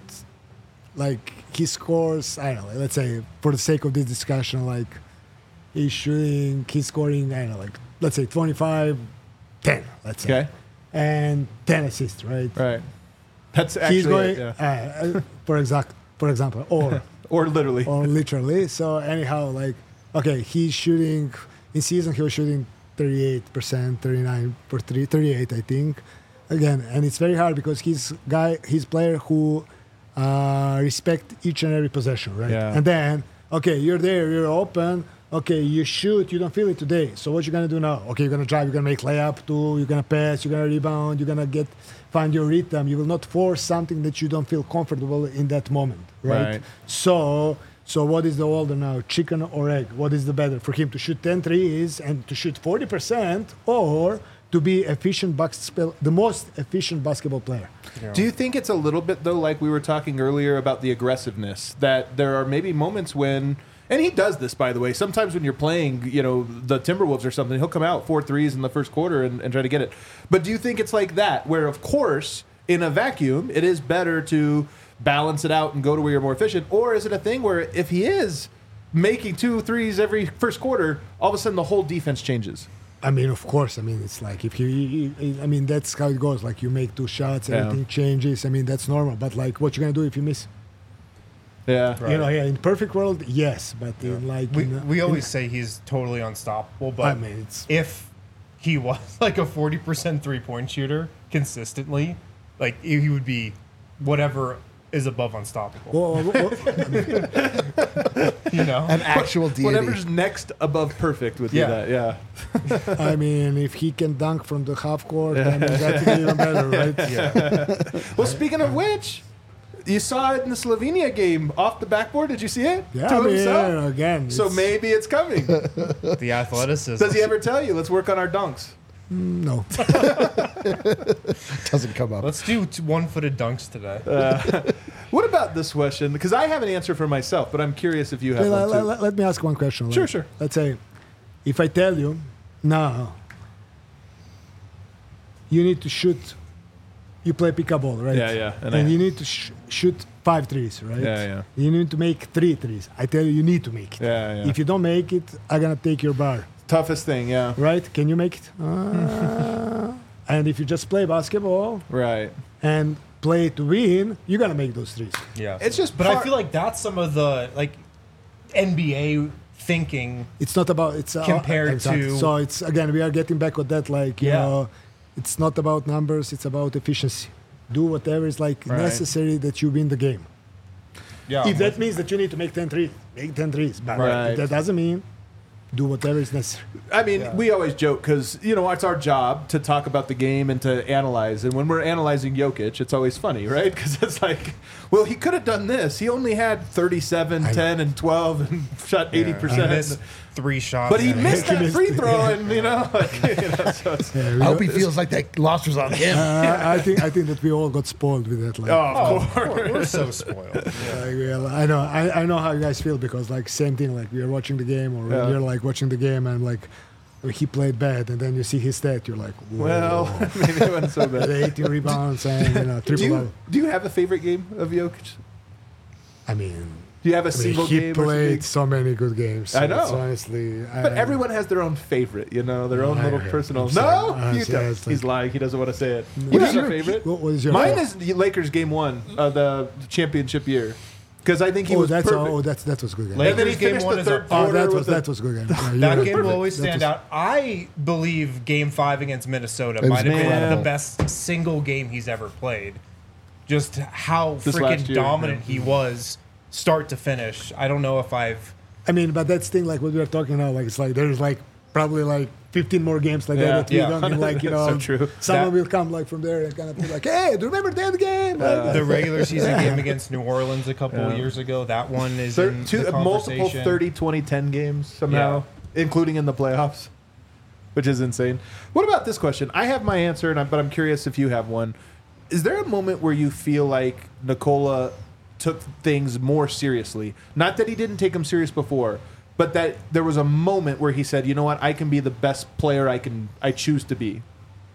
like, he scores. I don't know. Let's say for the sake of this discussion, like, he's shooting. He's scoring. I don't know. Like, let's say twenty-five, ten. Let's say. Okay, And ten assists, right? right. That's actually He's going, it, yeah. uh, uh, for exact, for example, or or literally. or literally. So anyhow, like, okay, he's shooting in season. He was shooting thirty-eight percent, thirty-nine for three, thirty-eight, I think. Again, and it's very hard because he's guy, he's player who uh, respect each and every possession, right? Yeah. And then, okay, you're there, you're open. Okay, you shoot, you don't feel it today. So what you gonna do now? Okay, you're gonna drive, you're gonna make layup too, you're gonna pass, you're gonna rebound, you're gonna get find your rhythm. You will not force something that you don't feel comfortable in that moment, right? Right. So so what is the older now, chicken or egg? What is the better for him to shoot ten threes and to shoot forty percent or to be efficient basketball, the most efficient basketball player? Yeah. Do you think it's a little bit though, like we were talking earlier about the aggressiveness, that there are maybe moments when, and he does this, by the way, sometimes when you're playing, you know, the Timberwolves or something, he'll come out four threes in the first quarter and, and try to get it. But do you think it's like that, where of course, in a vacuum, it is better to balance it out and go to where you're more efficient? Or is it a thing where if he is making two threes every first quarter, all of a sudden the whole defense changes? I mean, of course. I mean, it's like if you, you- I mean, that's how it goes. Like you make two shots, Yeah. everything changes. I mean, that's normal. But like, what you gonna do if you miss? Yeah. Right. You know, yeah, in perfect world, yes, but in like We, in, we in- always say he's totally unstoppable, but I mean, it's if he was like a forty percent three point shooter consistently, like he would be whatever is above unstoppable. well, well, well, I mean, You know? An actual deity. Whatever's next above perfect would Yeah. be that, yeah. I mean, if he can dunk from the half court, I mean, that's even better, right? yeah. Well, speaking of which, you saw it in the Slovenia game off the backboard. Did you see it? Yeah, To I mean, himself? again. So it's- maybe it's coming. The athleticism. Does he ever tell you, let's work on our dunks? no. doesn't come up. Let's do t- one-footed dunks today. What about this question? Because I have an answer for myself, but I'm curious if you have Okay, one let, too. let- let me ask one question. Sure, like, sure. Let's say, if I tell you, no, you need to shoot. You play pickleball, right? Yeah, yeah, and And, I- you need to sh- shoot five threes, right? Yeah, yeah. You need to make three threes. I tell you, you need to make it. Yeah, yeah. If you don't make it, I'm gonna take your bar. Toughest thing, yeah. Right? Can you make it? Uh, and if you just play basketball Right. and play to win, you're gonna make those threes. Yeah. It's just But part- I feel like that's some of the like N B A thinking. It's not about it's uh, Compared exactly. to- So it's again we are getting back on that like you Yeah. know, it's not about numbers. It's about efficiency. Do whatever is like Right. necessary that you win the game. Yeah. If that means that you need to make ten threes, make ten threes. But Right. if that doesn't mean do whatever is necessary. I mean, Yeah. we always joke because, you know, it's our job to talk about the game and to analyze. And when we're analyzing Jokic, it's always funny, right? Because it's like, well, he could have done this. He only had thirty-seven, I- ten, and twelve and shot eighty He percent. missed three shots. But he and- missed He that missed free it, throw, yeah. and, you know, like, you know so it's, Yeah, we I hope don't- he feels like that loss was on him. uh, I think I think that we all got spoiled with that. Like, oh, Oh, of of course. course. We're so spoiled. like, well, I know I, I know how you guys feel because like same thing. Like we are watching the game or Yeah. you're like watching the game and like he played bad and then you see his stat. You're like, whoa. Well, maybe it wasn't so With bad. eighteen rebounds and you know Do triple. you, do you have a favorite game of Jokic? I mean, Do you have a I mean, single he game? or played something? so many good games. I know. It's honestly, But I, everyone has their own favorite, you know, their own I little heard. personal. I'm No, sorry. you Uh, don't. seriously. He's lying. He doesn't want to say it. What What is is your your- favorite? what was your Mine favorite? is the Lakers game one of the championship year because I think he oh, was that's perfect. oh, that's that was good game. Lakers And then he game finished one the is third a- quarter Oh, that with was the- that was good game. Yeah, you're That right. game will perfect. always That stand was- out. I believe Game Five against Minnesota It was might have been incredible. the best single game he's ever played. Just how This last freaking year, dominant yeah. he was, start to finish. I don't know if I've. I mean, but that's thing like what we are talking now. Like it's like there's like probably like fifteen more games like Yeah. that that we Yeah. don't even like. You know, So true. someone That- will come like from there and kind of be like, "Hey, do you remember that game?" Like, The regular season game against New Orleans a couple Yeah. years ago. That one is Thir- in two, the multiple conversation. thirty twenty ten games somehow, including in the playoffs, which is insane. What about this question? I have my answer, and I, but I'm curious if you have one. Is there a moment where you feel like Nikola took things more seriously? Not that he didn't take them serious before, but that there was a moment where he said, "You know what? I can be the best player I can. I choose to be."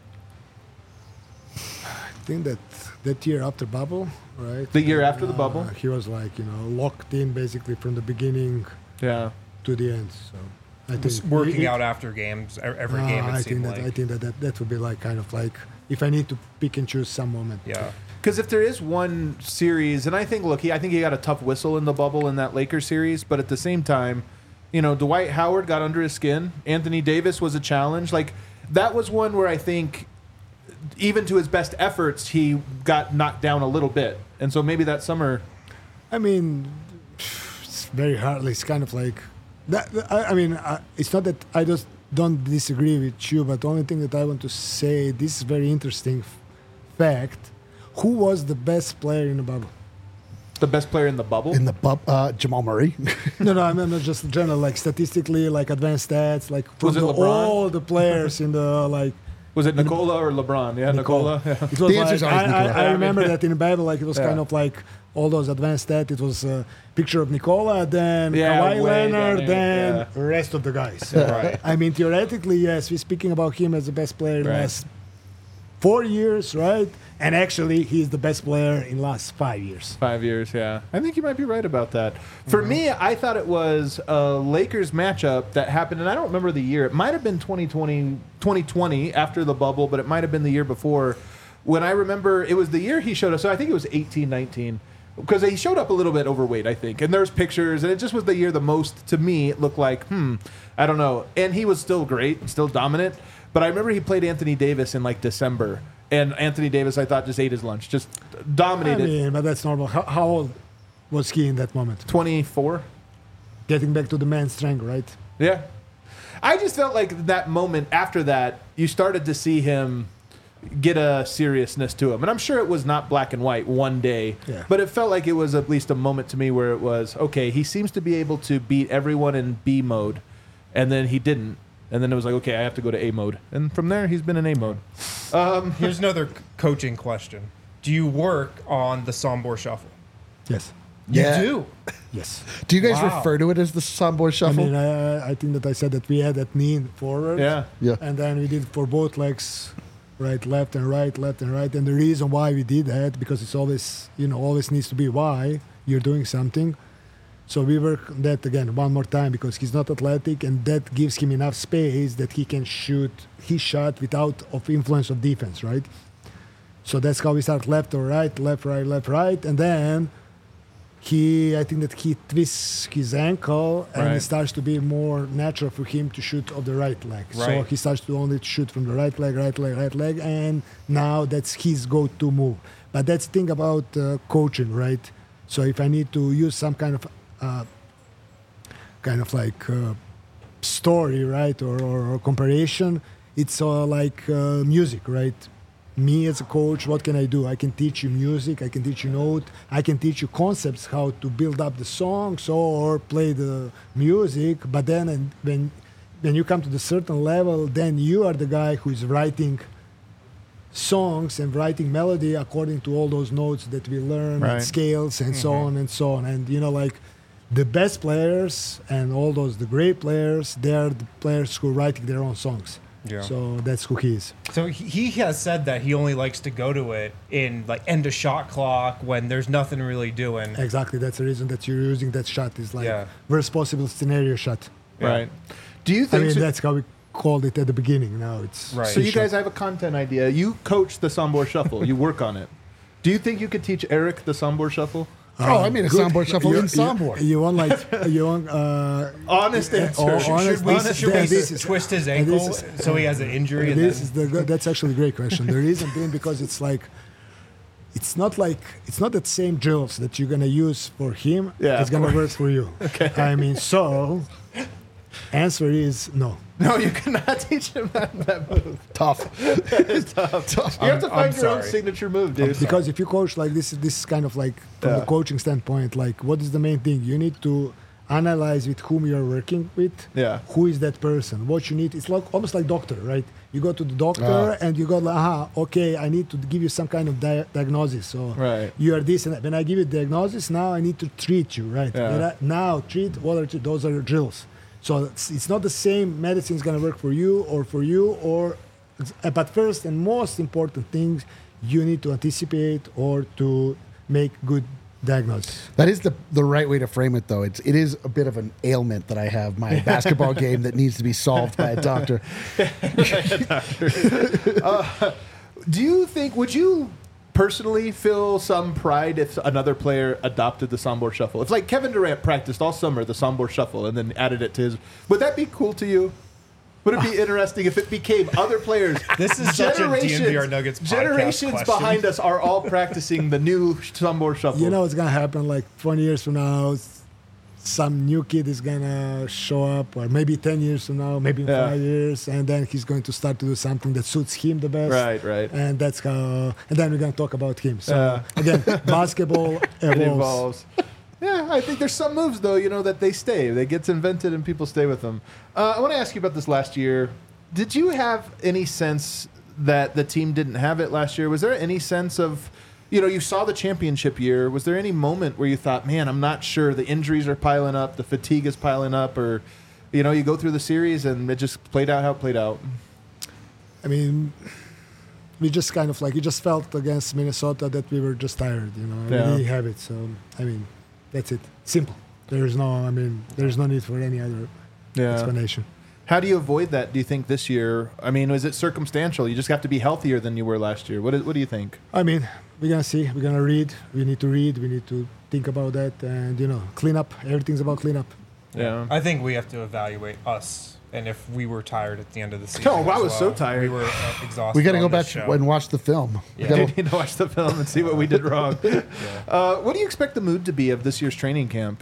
I think that that year after bubble, right? The year after the Uh, bubble? he was like you know locked in basically from the beginning Yeah. to the end. So I Just think working he- out after games, e- every uh, game. It I seemed think that like. I think that, that that would be like kind of like if I need to pick and choose some moment. yeah. Because if there is one series, and I think, look, he, I think he got a tough whistle in the bubble in that Lakers series, but at the same time, you know, Dwight Howard got under his skin. Anthony Davis was a challenge. Like, that was one where I think, even to his best efforts, he got knocked down a little bit. And so maybe that summer, I mean, it's very hard. It's kind of like that. I, I mean, I, it's not that I just don't disagree with you, but the only thing that I want to say, this is very interesting f- fact. Who was the best player in the bubble? the best player in the bubble. In the bub, uh, Jamal Murray. No, no, I mean not just in general, like statistically, like advanced stats, like from Was it the, LeBron? all the players in the like. was it Nikola or LeBron? Yeah, Nikola. Yeah. It was The answer's like, always I, I, Nikola. I remember that in the Bible, like it was Yeah. kind of like all those advanced stats. It was a picture of Nikola, then Yeah, Kawhi way down Leonard, there, then yeah. the rest of the guys. Right. I mean, theoretically, yes, we're speaking about him as the best player in the Right. last four years, right? And actually, he's the best player in last five years. Five years, yeah. I think you might be right about that. For Mm-hmm. me, I thought it was a Lakers matchup that happened, and I don't remember the year. It might have been twenty twenty, twenty twenty after the bubble, but it might have been the year before. When I remember, it was the year he showed up. So I think it was eighteen, nineteen. Because he showed up a little bit overweight, I think. And there's pictures, and it just was the year the most, to me, it looked like, hmm, I don't know. And he was still great, still dominant. But I remember he played Anthony Davis in like December. And Anthony Davis, I thought, just ate his lunch, just I dominated. mean, but that's normal. How, how old was he in that moment? twenty-four? Getting back to the man's strength, right? Yeah. I just felt like that moment after that, you started to see him get a seriousness to him. And I'm sure it was not black and white one day, Yeah. but it felt like it was at least a moment to me where it was, okay, he seems to be able to beat everyone in B mode, and then he didn't. And then it was like, okay, I have to go to A mode. And from there, he's been in A mode. Here's another c- coaching question. Do you work on the Sombor Shuffle? Yes. Yeah. You do. Yes. Do you guys Wow. refer to it as the Sombor I Shuffle? mean, I, I think that I said that we had that knee forward. Yeah. yeah. And then we did it for both legs, right, left and right, left and right. And the reason why we did that, because it's always, you know, always needs to be why you're doing something. So we work on that again one more time because he's not athletic, and that gives him enough space that he can shoot his shot without of influence of defense, right? So that's how we start left or right, left, right, left, right. And then he, I think that he twists his ankle and Right. it starts to be more natural for him to shoot of the right leg. So Right. he starts to only shoot from the right leg, right leg, right leg. And now that's his go-to move. But that's the thing about uh, coaching, right? So if I need to use some kind of, uh, kind of like uh, story, right, or, or, or comparison, it's uh, like uh, music, right? Me as a coach, what can I do? I can teach you music, I can teach you note, I can teach you concepts, how to build up the songs or play the music. But then and when when you come to the certain level, then you are the guy who is writing songs and writing melody according to all those notes that we learn Right. and scales and so on and so on. And you know, like the best players and all those the great players, they are the players who are writing their own songs. Yeah. So that's who he is. So he he has said that he only likes to go to it in like end of shot clock when there's nothing really doing. Exactly. That's the reason that you're using that shot is like Yeah. worst possible scenario shot. Yeah. Right. Do you I think mean, so, that's how we called it at the beginning. Now it's Right. so you shot. guys have a content idea. You coach the Sombor Shuffle. You work on it. Do you think you could teach Eric the Sombor Shuffle? Oh, I made a Good. soundboard shuffle You- in you- soundboard. You want like you want uh, Honest uh, answer. oh, Should- honest- Should we, honest- should we yeah, this is- twist his and this ankle is- so he has an injury? And this then, is the good- that's actually a great question. The reason being because it's like it's not like it's not that same drills that you're gonna use for him. Yeah, it's of gonna course. work for you. Okay. I mean, so answer is no. No, you cannot teach him that, that move. Tough. Tough. You have to I'm- I'm find your own sorry. signature move, dude. Because if you coach like this, this is kind of like from Yeah. the coaching standpoint, like what is the main thing? You need to analyze with whom you're working with. Yeah. Who is that person? What you need? It's like almost like doctor, right? You go to the doctor Ah. and you go like, aha, okay, I need to give you some kind of dia- diagnosis. So Right. you are this and that. When I give you diagnosis, now I need to treat you, right? Yeah. When I- now treat, what are treat? Those are drills. So it's, it's not the same medicine is going to work for you or for you or, but first and most important things, you need to anticipate or to make good diagnosis. That is the the right way to frame it, though. It's it is a bit of an ailment that I have, my basketball game that needs to be solved by a doctor. Do you think, would you personally feel some pride if another player adopted the Sombor Shuffle? If like Kevin Durant practiced all summer the Sombor Shuffle and then added it to his, would that be cool to you? Would it be interesting if it became other players? This is such a D N V R Nuggets podcast generations question. behind us are all practicing the new Sombor Shuffle. You know what's going to happen like twenty years from now? s- Some new kid is going to show up, or maybe ten years from now, maybe in Yeah. five years, and then he's going to start to do something that suits him the best. Right, right. And that's how, and then we're going to talk about him. So, Yeah. again, basketball It evolves. evolves. Yeah, I think there's some moves though, you know, that they stay. They gets invented and people stay with them. Uh, I want to ask you about this last year. Did you have any sense that the team didn't have it last year? Was there any sense of, you know, you saw the championship year. Was there any moment where you thought, man, I'm not sure, the injuries are piling up, the fatigue is piling up, or, you know, you go through the series and it just played out how it played out? I mean, we just kind of like, we just felt against Minnesota that we were just tired, you know, Yeah. we have it. So, I mean, that's it. Simple. There is no, I mean, there's no need for any other Yeah. explanation. How do you avoid that, do you think, this year? I mean, is it circumstantial? You just have to be healthier than you were last year. What do, what do you think? I mean, we're going to see. We're going to read. We need to read. We need to think about that and, you know, clean up. Everything's about clean up. Yeah. I think we have to evaluate us and if we were tired at the end of the season. Oh, I as was so well. tired. We were uh, exhausted. We got to on go this back show. and watch the film. We Yeah. gotta- We need to watch the film and see what we did wrong. uh, what do you expect the mood to be of this year's training camp?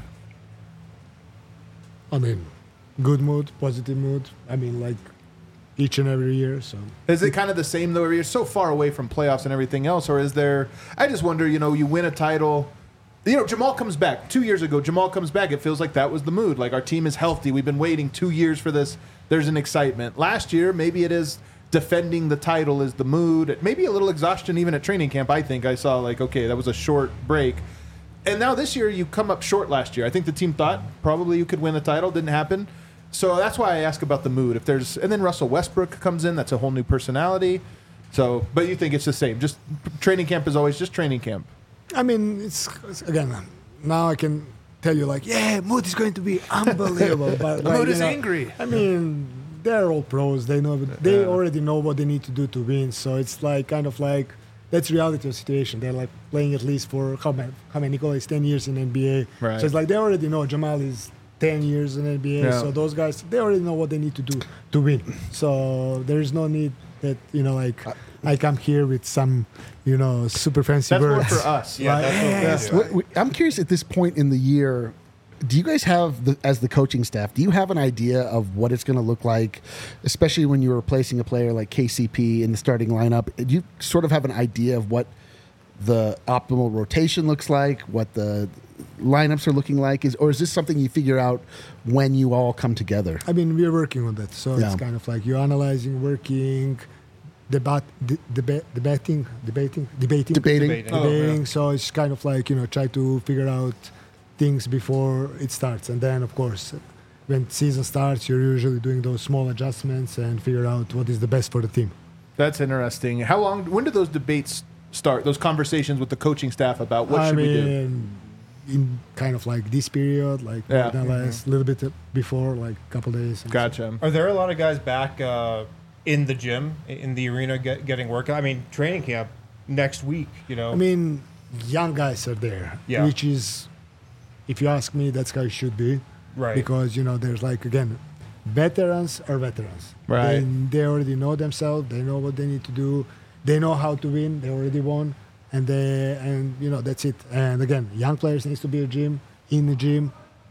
I mean, good mood, positive mood. I mean, like each and every year. So Is it kind of the same though? You're so far away from playoffs and everything else, or is there? I just wonder. You know, you win a title. You know, Jamal comes back two years ago. Jamal comes back. It feels like that was the mood. Like our team is healthy. We've been waiting two years for this. There's an excitement. Last year, maybe it is defending the title is the mood. Maybe a little exhaustion even at training camp. I think I saw like okay, that was a short break. And now this year you come up short last year. I think the team thought probably you could win the title. Didn't happen. So that's why I ask about the mood. If there's and then Russell Westbrook comes in, that's a whole new personality. So, but you think it's the same? Just training camp is always just training camp. I mean, it's, it's again. Now I can tell you, like, yeah, mood is going to be unbelievable. But The like, mood you is know, angry. I mean, they're all pros. They know. They Yeah. already know what they need to do to win. So it's like kind of like that's reality of the situation. They're like playing at least for how many? How many? Nicolas ten years in N B A. Right. So it's like they already know Jamal is ten years in N B A. Yeah. So those guys, they already know what they need to do to win. So there is no need that you know, like I come here with some, you know, super fancy That's more words. for us. Yeah, Like, that's what we yes, do. What- what- I'm curious at this point in the year, do you guys have, the, as the coaching staff, do you have an idea of what it's going to look like, especially when you're replacing a player like K C P in the starting lineup? Do you sort of have an idea of what the optimal rotation looks like, what the lineups are looking like, is, or is this something you figure out when you all come together? I mean, we're working on that. So Yeah. it's kind of like you're analyzing, working, debat, de- deba- debating, debating, debating, Debating. Debating. Oh, debating. yeah. So it's kind of like, you know, try to figure out things before it starts. And then, of course, when season starts, you're usually doing those small adjustments and figure out what is the best for the team. That's interesting. How long? When do those debates start? Those conversations with the coaching staff about what I should we do? mean, in kind of like this period, like Yeah. more than less, a little bit before, like a couple days. and so- Gotcha. Are there a lot of guys back uh, in the gym, in the arena, get, getting workout? I mean, training camp next week, you know. I mean, young guys are there, Yeah. which is, if you ask me, that's how it should be. Right. Because, you know, there's like, again, veterans are veterans. Right. They, they already know themselves. They know what they need to do. They know how to win. They already won. And they, and you know, that's it. And again, young players needs to be a gym, in the gym.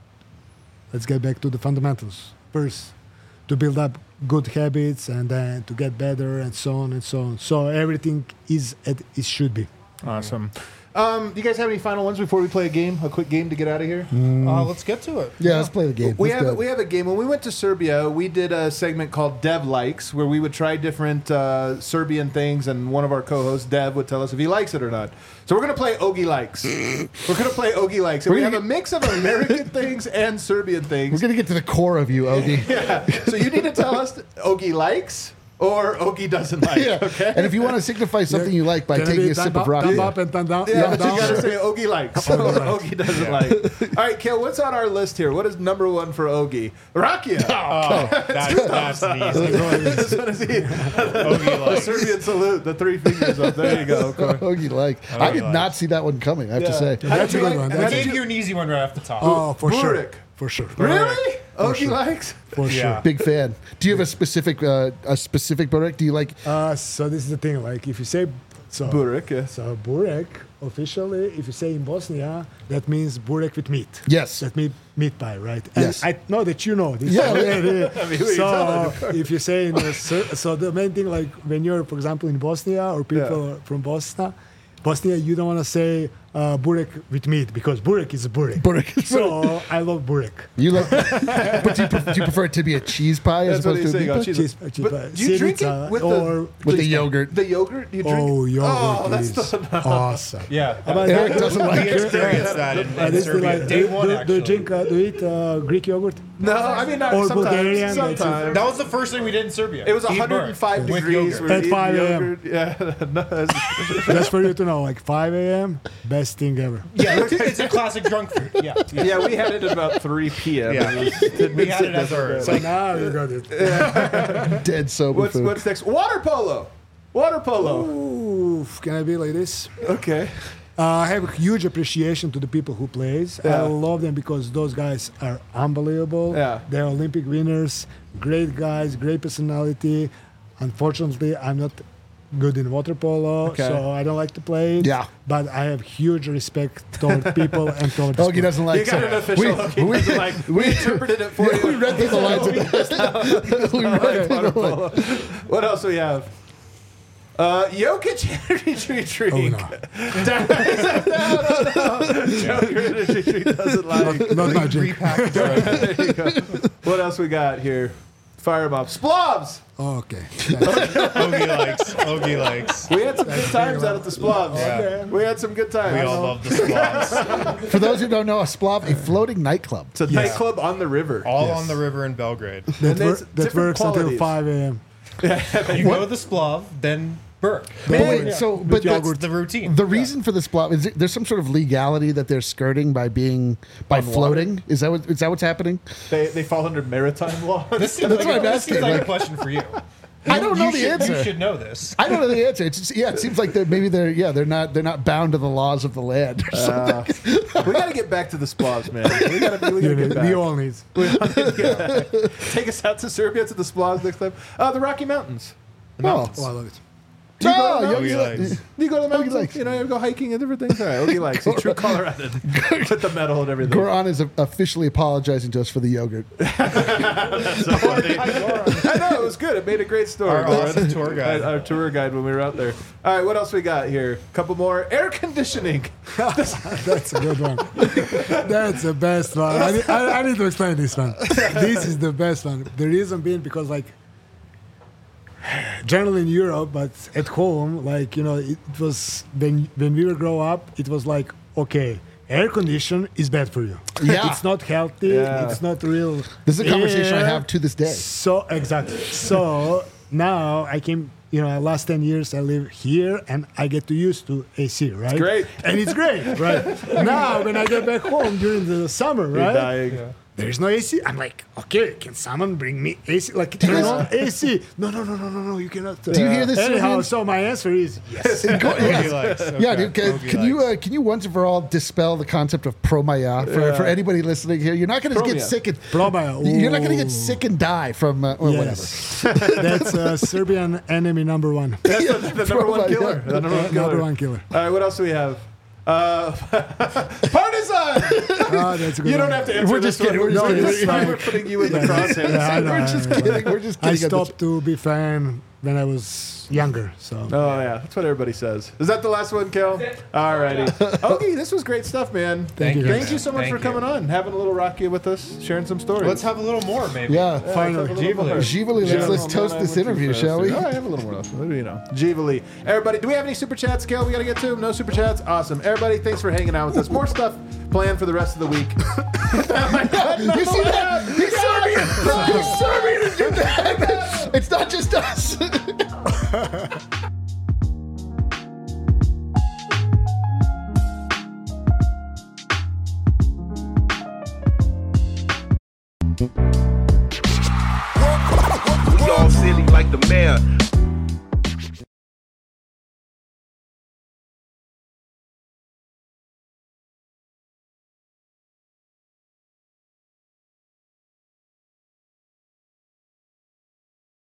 Let's get back to the fundamentals. First, to build up good habits and then to get better and so on and so on. So everything is at it should be. Awesome. Um, do you guys have any final ones before we play a game? A quick game to get out of here. uh, let's get to it. Yeah, let's play the game. We Let's have go. we have a game. When we went to Serbia, we did a segment called Dev Likes, where we would try different uh, Serbian things, and one of our co-hosts, Dev, would tell us if he likes it or not. So we're gonna play Ogie Likes. We're gonna play Ogie Likes, and We're we have gonna a mix of American things and Serbian We're things. gonna get to the core of you, Ogie. Yeah. So you need to tell us Ogie likes or Ogie doesn't like. Yeah. Okay. And if you want to signify something you like by Can it taking be a sip thumb of up, rock, thumb up and thumb down. Yeah, thumb but you down. gotta say Ogie likes or Ogie likes. Ogie doesn't like. All right, Kale, what's on our list here? What is number one for Ogie? Rakia. Oh, that's, that's easy. This one is he. Ogie The likes. Serbian salute, the three fingers up. There you go. Corey. Ogie like. I did Ogie not likes. see that one coming. I have to Yeah. say. How That's did you a good like- one. how I did That's gave you- you an easy one right off the top. Oh, for sure. Burek. For sure. Really? Ogie sure. likes? For Yeah. sure. Big fan. Do you have a specific uh, a specific Burek? Do you like? Uh, so this is the thing. Like if you say so, Burek, yes. so burek officially, if you say in Bosnia, that means burek with meat. Yes. That meat meat pie, right? And Yes. I know that you know this. Yeah. already. I mean, who are you telling, so if you say in the, Ser- so the main thing, like when you're, for example, in Bosnia or people from Bosnia, Bosnia, you don't want to say uh, burek with meat because burek is a burek. Burek. So I love burek. You love, but do you, pref- do you prefer it to be a cheese pie as That's what opposed he's to a saying. meat Oh, pie? cheese. Cheese- cheese But pie. do you drink Syriza it with or- the With the yogurt. The yogurt? Do you drink Oh, it? yogurt Oh, that's is the awesome. Yeah. But Eric that- doesn't like We it. experienced that in, Uh, in this is Serbia. like, Day do, one, do, do actually. you drink, uh, do you eat uh, Greek yogurt? No, I mean not Or sometimes. Bulgarian, that's it. Sometimes. That was the first thing we did in Serbia. It was Eat one hundred five burek with degrees. yogurt. we were At eating five a.m. yogurt. Yeah, no, it's- Just for you to know, like five a.m., best thing ever. Yeah, it's, it's a classic drunk food. Yeah. Yeah. yeah, we had it at about three p.m. Yeah. It was- We had it as our. So now you got it. Dead sober What's food. what's next? Water polo. Water polo. Oof, can I be like this? Okay. Uh, I have a huge appreciation to the people who plays. Yeah. I love them because those guys are unbelievable. Yeah. They're Olympic winners, great guys, great personality. Unfortunately, I'm not good in water polo, Okay. so I don't like to play it. Yeah. But I have huge respect toward people and toward the Ogie sport. doesn't like You got so- an official. We, okay, we, doesn't like, we interpreted it for yeah, we you. read through the lines. Of the, we read through Water the lines. polo. What else do we have? Uh, Jokic energy drink. Oh, no. no, no, no. Jokic energy drink doesn't like. Not my drink. Repackaged. There you go. What else we got here? Fire 'em up. Splavs. Okay. Ogie likes. Ogie likes. We had some good times out at the Splavs. Yeah. We had some good times. We all love the squats. For those who don't know, a splav, a floating nightclub. It's a nightclub on the river. All Yes. on the river in Belgrade. That, And wor- there's that different works until qualities. five a.m. You go to the Splav, then Burke. But wait, so but That's that's the routine. the reason for the splav is there, there's some sort of legality that they're skirting by being by On water? floating. Is that what is that what's happening? They, they fall under maritime law. This seems That's like, what I'm a, this seems asking, like like- a question for you. I don't know you the should, answer. You should know this. I don't know the answer. It's just, yeah, it seems like they're maybe they're yeah they're not they're not bound to the laws of the land. Or something. Uh, we got to get back to the Splavs, man. We got to we You gotta know, get we back. all need. Take us out to Serbia to the Splavs next time. Uh, the Rocky Mountains. The mountains. Oh, I love it. Do you go to No, the Yogi mountains? Ogie likes. Do you go to the mountains? likes. You know, you go hiking and different things. All right, Ogie likes. He's true Colorado. With the medal and everything. Goran is officially apologizing to us for the yogurt. So funny. I know, it was good. It made a great story. Our Goran. awesome tour guide. Our, our tour guide when we were out there. All right, what else we got here? Couple more. Air conditioning. That's a good one. That's the best one. I need, I, I need to explain this one. This is the best one. The reason being because, like, generally in Europe, but at home, like, you know, it was when when we were grow up, it was like, okay, air condition is bad for you. Yeah. It's not healthy. Yeah. It's not real. This is a conversation I air. have to this day. So exactly. So now I came. You know, last ten years I live here, and I get to used to A C, right? great. And it's great, right? Now when I get back home during the summer, You're right? dying. There is no A C. I'm like, okay, can someone bring me A C? Like, you turn guys- on A C. No, no, no, no, no, no. You cannot. Do you hear this, Anyhow, Serbian? so my answer is yes. Go- yeah, likes, okay. yeah dude. Can, Ogie can you likes. uh, can you once and for all dispel the concept of promaya for, Yeah. for anybody listening here? You're not going to get Promaya. sick and Promaya, You're not going to get ooh. sick and die from uh, or Yes. That's uh, Serbian enemy number one. That's the, the number one Promaya. killer. The number one killer. Number one killer. All right, what else do we have? Uh, Partisan! Oh, that's a good You don't one. have to answer We're this just kidding, one. we're just No, kidding. this is why It's we're putting you in the Yeah, crosshairs. I know, We're I just know. kidding. We're just I kidding. stopped to be fan when I was younger. So Oh yeah, that's what everybody says. Is that the last one, Kel? All righty. Ogie, this was great stuff, man. Thank you. Thank you so much Thank for coming you. on, having a little Rocky with us, sharing some stories. Let's have a little more, maybe. Yeah. Yeah, Finally. let's have a little more. Givali, let's, let's toast this interview, shall we? Oh, I have a little more. What do you know? Givali. Everybody, do we have any super chats, Kel? We got to get to them. No super chats? Awesome. Everybody, thanks for hanging out with us. More stuff planned for the rest of the week. You see that? He's Serbian. He's Serbian. It's not just us. We all silly like the mayor.